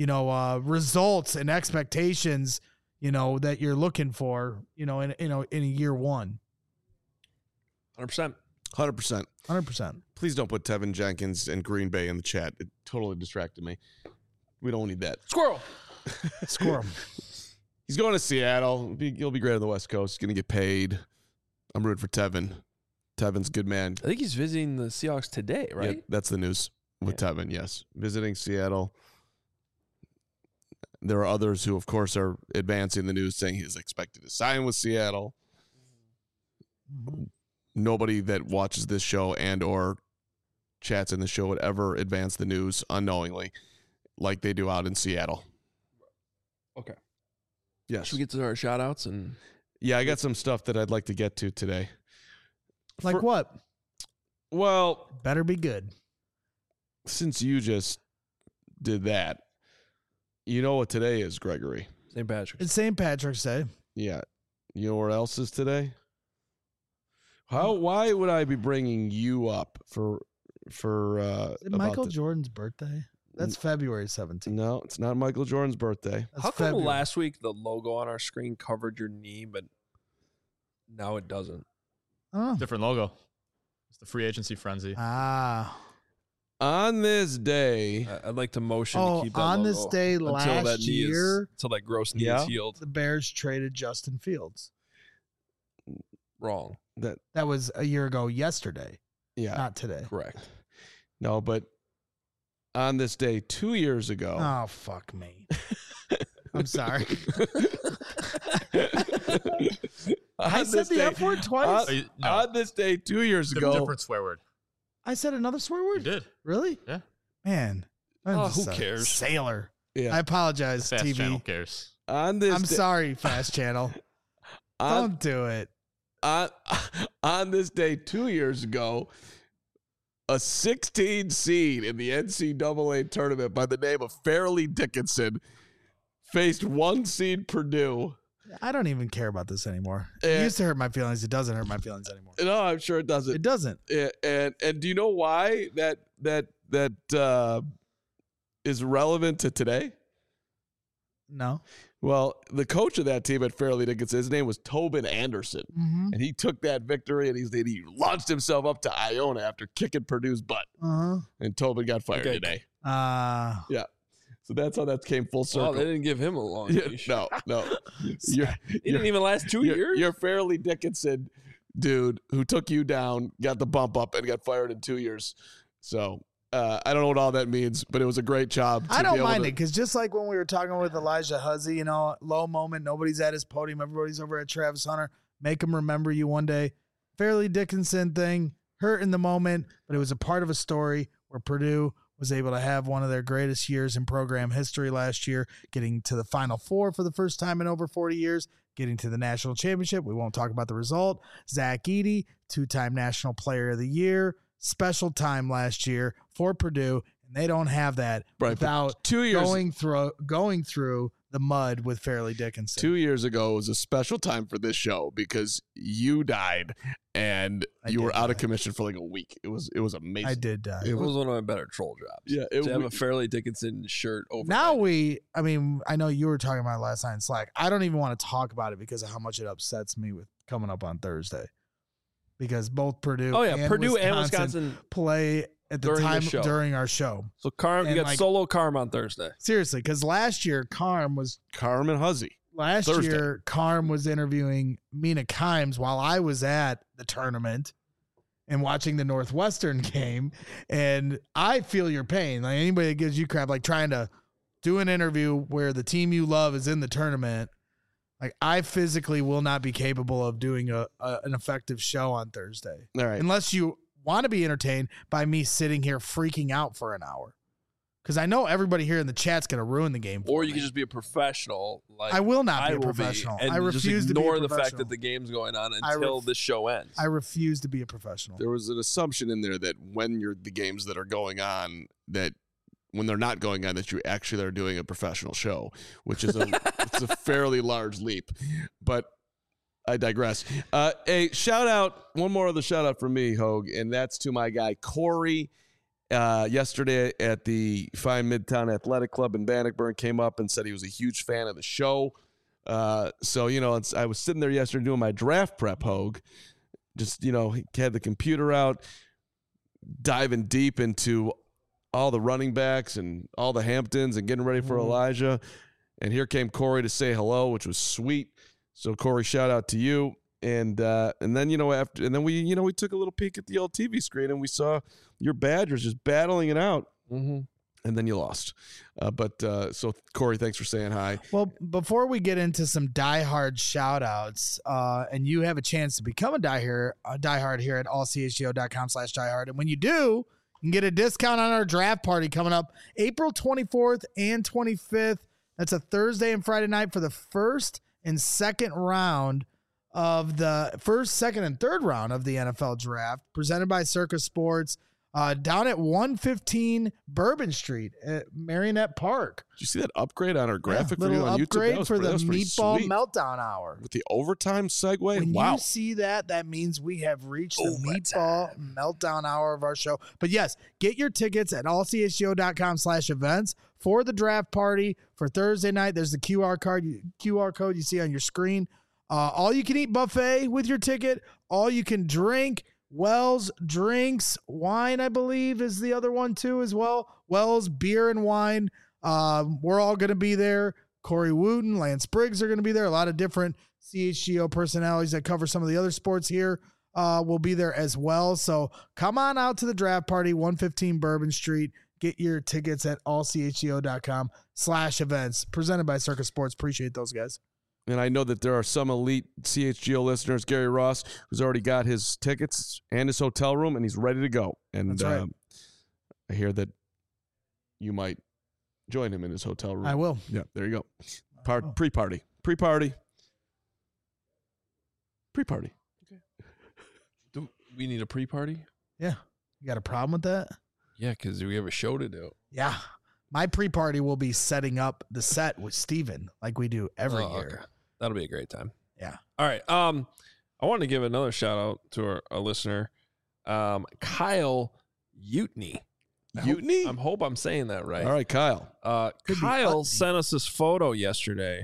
results and expectations, that you're looking for, in a year one. 100%. 100%. Please don't put Tevin Jenkins and Green Bay in the chat. It totally distracted me. We don't need that. Squirrel. He's going to Seattle. He'll be great on the West Coast. He's going to get paid. I'm rooting for Tevin. Tevin's a good man. I think he's visiting the Seahawks today, right? Yeah, that's the news with Tevin, yes. Visiting Seattle. There are others who, of course, are advancing the news saying he's expected to sign with Seattle. Mm-hmm. Nobody that watches this show and or chats in the show would ever advance the news unknowingly like they do out in Seattle. Okay. Yes. Should we get to our shout-outs? Yeah, I got some stuff that I'd like to get to today. Like what? Well, better be good. Since you just did that, you know what today is, Gregory? St. Patrick's. It's St. Patrick's Day. Yeah. You know where else is today? Why would I be bringing you up for Is it Michael this? Jordan's birthday? That's February 17th. No, it's not Michael Jordan's birthday. That's How come February. last week the logo on our screen covered your knee, but now it doesn't? Oh. Different logo. It's the free agency frenzy. Ah. On this day, I'd like to motion to Oh, keep that on logo this day until last that knee year, until that gross knee Yeah. is healed. the Bears traded Justin Fields. Wrong. That was a year ago yesterday, yeah, not today. Correct. no, but on this day 2 years ago, Oh, fuck me. I'm sorry. I said the F word twice. On this day 2 years ago, Different swear word. I said another swear You word? did. Really? Yeah. Man. I'm Oh, just who a cares? Sailor. Yeah. I apologize, Fast TV. channel cares. on this I'm day, sorry, Fast Channel. on, Don't do it. on this day 2 years ago, a 16 seed in the NCAA tournament by the name of Fairleigh Dickinson faced 1 seed Purdue. I don't even care about this anymore. It And- used to hurt my feelings. It doesn't hurt my feelings anymore. No, I'm sure it doesn't. It doesn't. And do you know why that is relevant to today? No. Well, the coach of that team at Fairleigh Dickinson, his name was Tobin Anderson, Mm-hmm. and he took that victory and he launched himself up to Iona after kicking Purdue's butt, Uh-huh. and Tobin got fired Okay. today. So that's how that came full circle. Oh, they didn't give him a long Yeah, leash. no. He didn't even last 2 years. Your Fairleigh Dickinson dude who took you down got the bump up and got fired in 2 years. So I don't know what all that means, but it was a great job. I don't mind it because just like when we were talking with Elijah Huzzy, low moment, nobody's at his podium, everybody's over at Travis Hunter. Make him remember you one day. Fairleigh Dickinson thing, hurt in the moment, but it was a part of a story where Purdue was able to have one of their greatest years in program history last year, getting to the Final Four for the first time in over 40 years, getting to the national championship. We won't talk about the result. Zach Edey, 2-time National Player of the Year, special time last year for Purdue, and they don't have that Right, without 2 years going through the mud with Fairleigh Dickinson. 2 years ago was a special time for this show because you died and you were out of commission for like a week. It was amazing. I did die. It was one of my better troll jobs. Yeah, to have a Fairleigh Dickinson shirt over. Now I know you were talking about it last night in Slack. I don't even want to talk about it because of how much it upsets me with coming up on Thursday. Because both Purdue and Wisconsin play at the during time the show. during our show. So Carm, you And, got solo Carm on Thursday. Seriously, because last year Carm was Huzzy. Carm was interviewing Mina Kimes while I was at the tournament and watching the Northwestern game. And I feel your pain. Like anybody that gives you crap, like trying to do an interview where the team you love is in the tournament. Like I physically will not be capable of doing an effective show on Thursday. All right. Unless you want to be entertained by me sitting here freaking out for an hour. Because I know everybody here in the chat's going to ruin the game for Or you me. can just be a professional. Like I will not be I a will professional. and I just refuse to be a ignore the fact professional. that the game's going on until the show ends. I refuse to be a professional. There was an assumption in there that when you're the games that are going on, that when they're not going on, that you actually are doing a professional show, which is it's a fairly large leap. But I digress. A shout out, one more other shout out from me, Hogue, and that's to my guy Corey. Yesterday at the Fine Midtown Athletic Club in Bannockburn, came up and said he was a huge fan of the show. So I was sitting there yesterday doing my draft prep, Hogue. Just he had the computer out, diving deep into all the running backs and all the Hamptons and getting ready for Elijah. And here came Corey to say hello, which was sweet. So Corey, shout out to you. And then we took a little peek at the old TV screen and we saw your Badgers just battling it out. Mm-hmm. And then you lost. So Corey, thanks for saying hi. Well, before we get into some diehard shout outs, and you have a chance to become a diehard here at allchgo.com/diehard. And when you do, you can get a discount on our draft party coming up April 24th and 25th. That's a Thursday and Friday night for the first and second round of the first, second, and third round of the NFL draft, presented by Circus Sports. down at 115 Bourbon Street at Marionette Park. Did you see that upgrade on our graphic little video on YouTube? upgrade for the pretty Meatball sweet. Meltdown Hour. With the overtime segue. When Wow. you see that, that means we have reached the Meatball Meltdown Hour of our show. But yes, get your tickets at allchgo.com/events for the draft party for Thursday night. There's the QR code you see on your screen. All you can eat buffet with your ticket. All you can drink. Wells Drinks, wine, I believe, is the other one too as well. Wells Beer and Wine. We're all going to be there. Corey Wooten, Lance Briggs are going to be there. A lot of different CHGO personalities that cover some of the other sports here will be there as well. So come on out to the draft party, 115 Bourbon Street. Get your tickets at allchgo.com/events. Presented by Circus Sports. Appreciate those guys. And I know that there are some elite CHGO listeners. Gary Ross, who's already got his tickets and his hotel room, and he's ready to go. And That's right. I hear that you might join him in his hotel room. I will. Yeah, there you go. Pre-party. Pre-party. Pre-party. Do we need a pre-party? Yeah. You got a problem with that? Yeah, because we have a show to do. Yeah. My pre-party will be setting up the set with Steven like we do every year. Okay. That'll be a great time. Yeah. All right. I want to give another shout out to our listener, Kyle Utney. Utney? I hope I'm saying that right. All right, Kyle. Could be Kyle Utney. sent us this photo yesterday.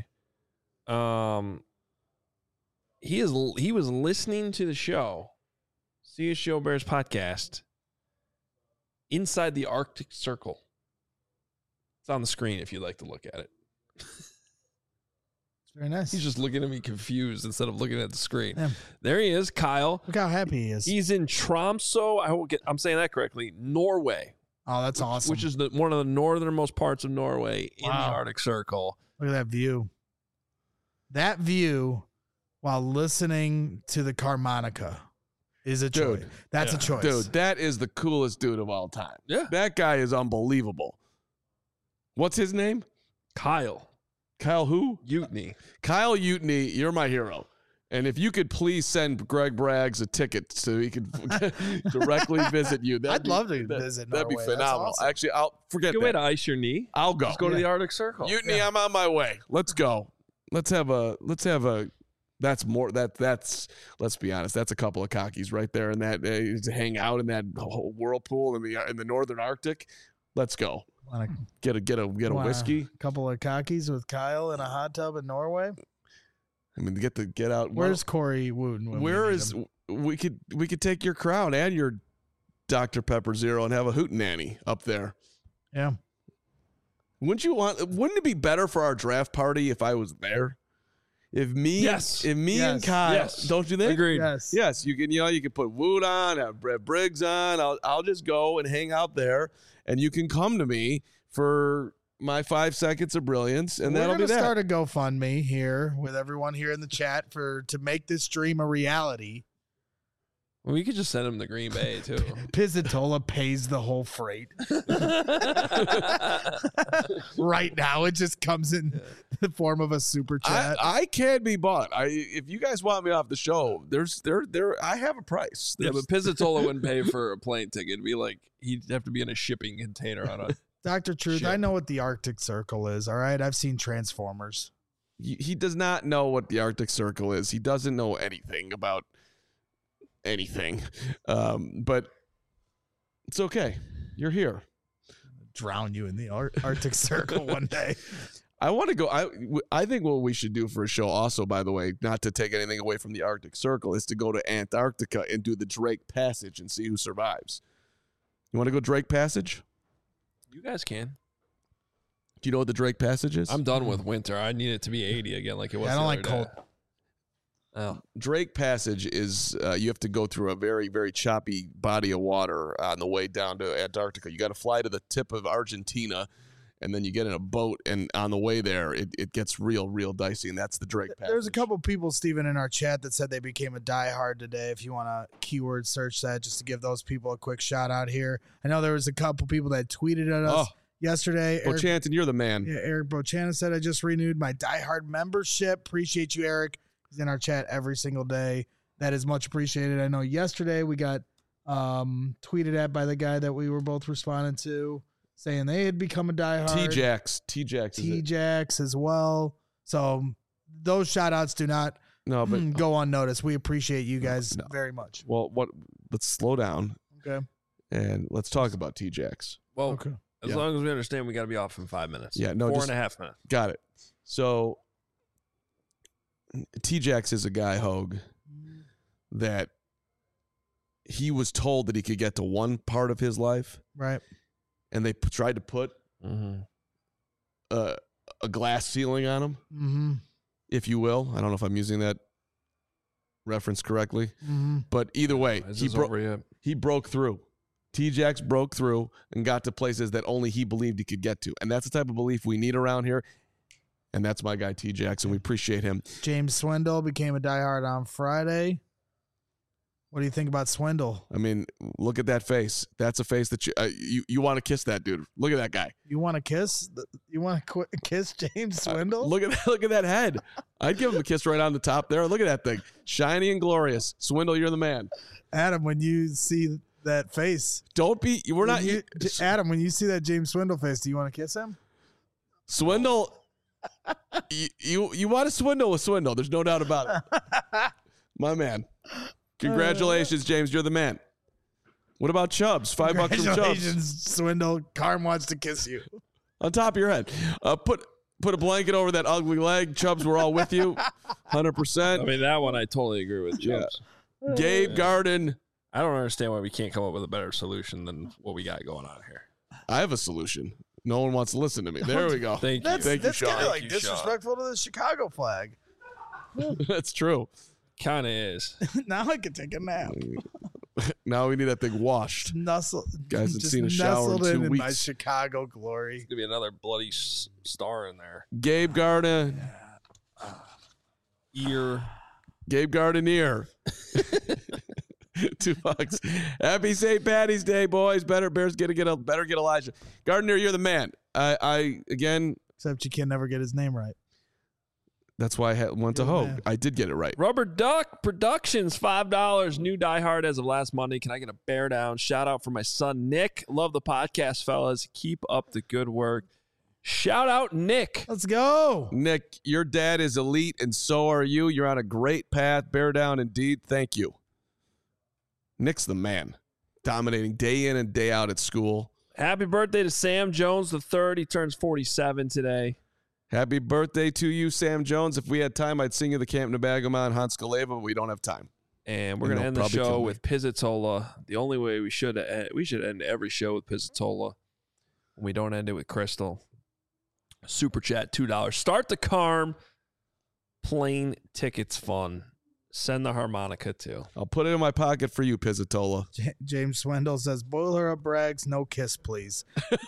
He was listening to the show, CHGO Bears podcast, inside the Arctic Circle. It's on the screen if you'd like to look at it. It's very nice. He's just looking at me confused instead of looking at the screen. Yeah. There he is, Kyle. Look how happy he is. He's in Tromsø. I'm saying that correctly. Norway, Oh, that's awesome. which is one of the northernmost parts of Norway in the Wow. Arctic Circle. Look at that view. That view while listening to the Carmonica is a choice. Dude. That's Yeah. a choice. Dude, that is the coolest dude of all time. Yeah. That guy is unbelievable. What's his name? Kyle Kyle who? Utney. Kyle Utney, you're my hero. And if you could please send Greg Braggs a ticket so he could directly visit you. I'd love to visit That'd be Norway. That's phenomenal. awesome. Actually, I'll forget Good way that. to ice your knee. I'll go. Just go to the Arctic Circle. Utney, I'm on my way. Let's go. Let's have a let's be honest, that's a couple of cockies right there in that to hang out in that whole whirlpool in the northern Arctic. Let's go. Want Get a whiskey. a couple of cockies with Kyle in a hot tub in Norway. I mean, get out. Where's Corey Wooten? when we Where need is him? we could take your crown and your Dr. Pepper Zero and have a hootenanny up there. Yeah. Wouldn't it be better for our draft party if I was there? If me Yes. and Yes. Kyle, Yes. don't you think? Agreed. Yes. Yes, you can put Wood on, have Brett Briggs on. I'll just go and hang out there, and you can come to me for my 5 seconds of brilliance, and We're that'll be gonna that. start a GoFundMe here with everyone here in the chat to make this dream a reality. Well, we could just send him to Green Bay too. Pizzatola pays the whole freight. Right now, it just comes in the form of a super chat. I can be bought. If you guys want me off the show, I have a price. Yeah, but Pizzatola wouldn't pay for a plane ticket. It'd be like he'd have to be in a shipping container on a. Dr. Truth, Shit. I know what the Arctic Circle is, all right? I've seen Transformers. He does not know what the Arctic Circle is. He doesn't know anything about anything. But it's okay. You're here. Drown you in the Arctic Circle one day. I want to go. I think what we should do for a show also, by the way, not to take anything away from the Arctic Circle, is to go to Antarctica and do the Drake Passage and see who survives. You want to go Drake Passage? You guys can. Do you know what the Drake Passage is? I'm done with winter. I need it to be 80 again, like it was. I don't the like other cold. day. Oh, Drake Passage is you have to go through a very, very choppy body of water on the way down to Antarctica. You got to fly to the tip of Argentina, and then you get in a boat, and on the way there, it gets real, real dicey, and that's the Drake Passage. There's a couple people, Steven, in our chat that said they became a diehard today. If you want to keyword search that, just to give those people a quick shout out here. I know there was a couple people that tweeted at us yesterday. Well, Chanton, you're the man. Yeah, Eric Bochana said, I just renewed my diehard membership. Appreciate you, Eric. He's in our chat every single day. That is much appreciated. I know yesterday we got tweeted at by the guy that we were both responding to, saying they had become a diehard. T-Jax as well. So those shout outs do not go unnoticed. We appreciate you guys very much. Well, let's slow down. Okay. And let's talk about T-Jax. Well, okay. As long as we understand, we got to be off in 5 minutes. Yeah, no, 4.5 minutes. Got it. So T-Jax is a guy, Hogue, that he was told that he could get to one part of his life. Right. And they tried to put a glass ceiling on him, if you will. I don't know if I'm using that reference correctly. But either way, he broke through. T-Jax broke through and got to places that only he believed he could get to. And that's the type of belief we need around here. And that's my guy, T-Jax, and we appreciate him. James Swindle became a diehard on Friday. What do you think about Swindle? I mean, look at that face. That's a face that you want to kiss that dude. Look at that guy. You want to kiss? You want to kiss James Swindle? Look at that head. I'd give him a kiss right on the top there. Look at that thing. Shiny and glorious. Swindle, you're the man. Adam, when you see that face. Adam, when you see that James Swindle face, do you want to kiss him? Swindle, you want to swindle with Swindle. There's no doubt about it. My man. Congratulations, James. You're the man. What about Chubbs? $5 from Chubbs. Congratulations, Swindle. Carm wants to kiss you. On top of your head. Put a blanket over that ugly leg. Chubbs, we're all with you. 100%. I mean, that one I totally agree with Chubbs. Yeah. Gabe Garden. I don't understand why we can't come up with a better solution than what we got going on here. I have a solution. No one wants to listen to me. There we go. Thank you. Thank you, Sean. That's kind of disrespectful to the Chicago flag. That's true. Kind of is. Now I can take a nap. Now we need that thing washed. Guys haven't seen a shower in 2 weeks. My Chicago glory. There's going to be another bloody star in there. Gabe Garden. Gabe Gardeneer. $2. Happy St. Patty's Day, boys. Better get Elijah. Gardeneer, you're the man. I again. Except you can never get his name right. That's why I went to Hogue. I did get it right. Rubber Duck Productions, $5. New diehard as of last Monday. Can I get a bear down? Shout out for my son, Nick. Love the podcast, fellas. Keep up the good work. Shout out, Nick. Let's go. Nick, your dad is elite, and so are you. You're on a great path. Bear down indeed. Thank you. Nick's the man. Dominating day in and day out at school. Happy birthday to Sam Jones III. He turns 47 today. Happy birthday to you, Sam Jones. If we had time, I'd sing you the Camp Nabagama and Hans Kaleva, but we don't have time. And we're going to end the show with Pizzatola. The only way we should end every show with Pizzatola. We don't end it with Crystal. Super chat, $2. Start the Carm. Plane tickets fun. Send the harmonica too. I'll put it in my pocket for you, Pizzatola. James Swindle says, boil her up, Braggs. No kiss, please.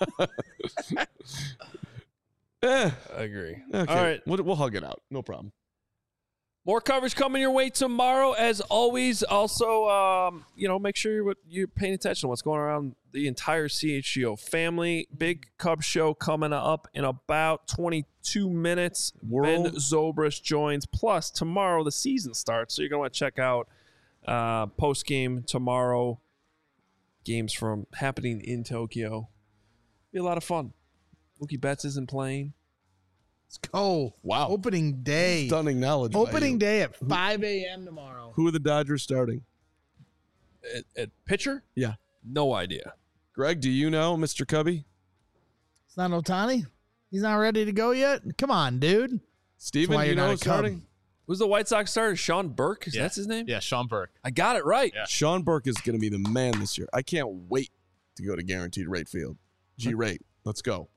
I agree. Okay. All right. We'll hug it out. No problem. More coverage coming your way tomorrow, as always. Also, make sure you're paying attention to what's going on around the entire CHGO family. Big Cubs show coming up in about 22 minutes. Ben Zobrist joins. Plus, tomorrow the season starts, so you're going to want to check out post-game tomorrow. Games from happening in Tokyo. Be a lot of fun. Mookie Betts isn't playing. Let's go. Wow. Opening day. Stunning knowledge. Opening day at 5 a.m. tomorrow. Who are the Dodgers starting? At pitcher? Yeah. No idea. Greg, do you know, Mr. Cubby? It's not Ohtani? He's not ready to go yet? Come on, dude. Steven, do you know who's starting? Who's the White Sox starter? Sean Burke? That's his name? Yeah, Sean Burke. I got it right. Yeah. Sean Burke is going to be the man this year. I can't wait to go to Guaranteed Rate Field. G-Rate. Let's go.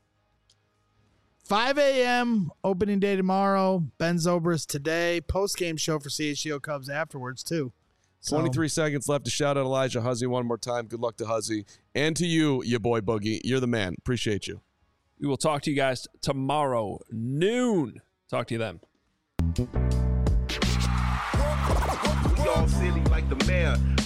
5 a.m. opening day tomorrow. Ben Zobrist today. Post-game show for CHGO Cubs afterwards, too. 23 seconds left to shout out Elijah Huzzy one more time. Good luck to Huzzy. And to you, your boy Boogie. You're the man. Appreciate you. We will talk to you guys tomorrow, noon. Talk to you then. We all silly like the mayor.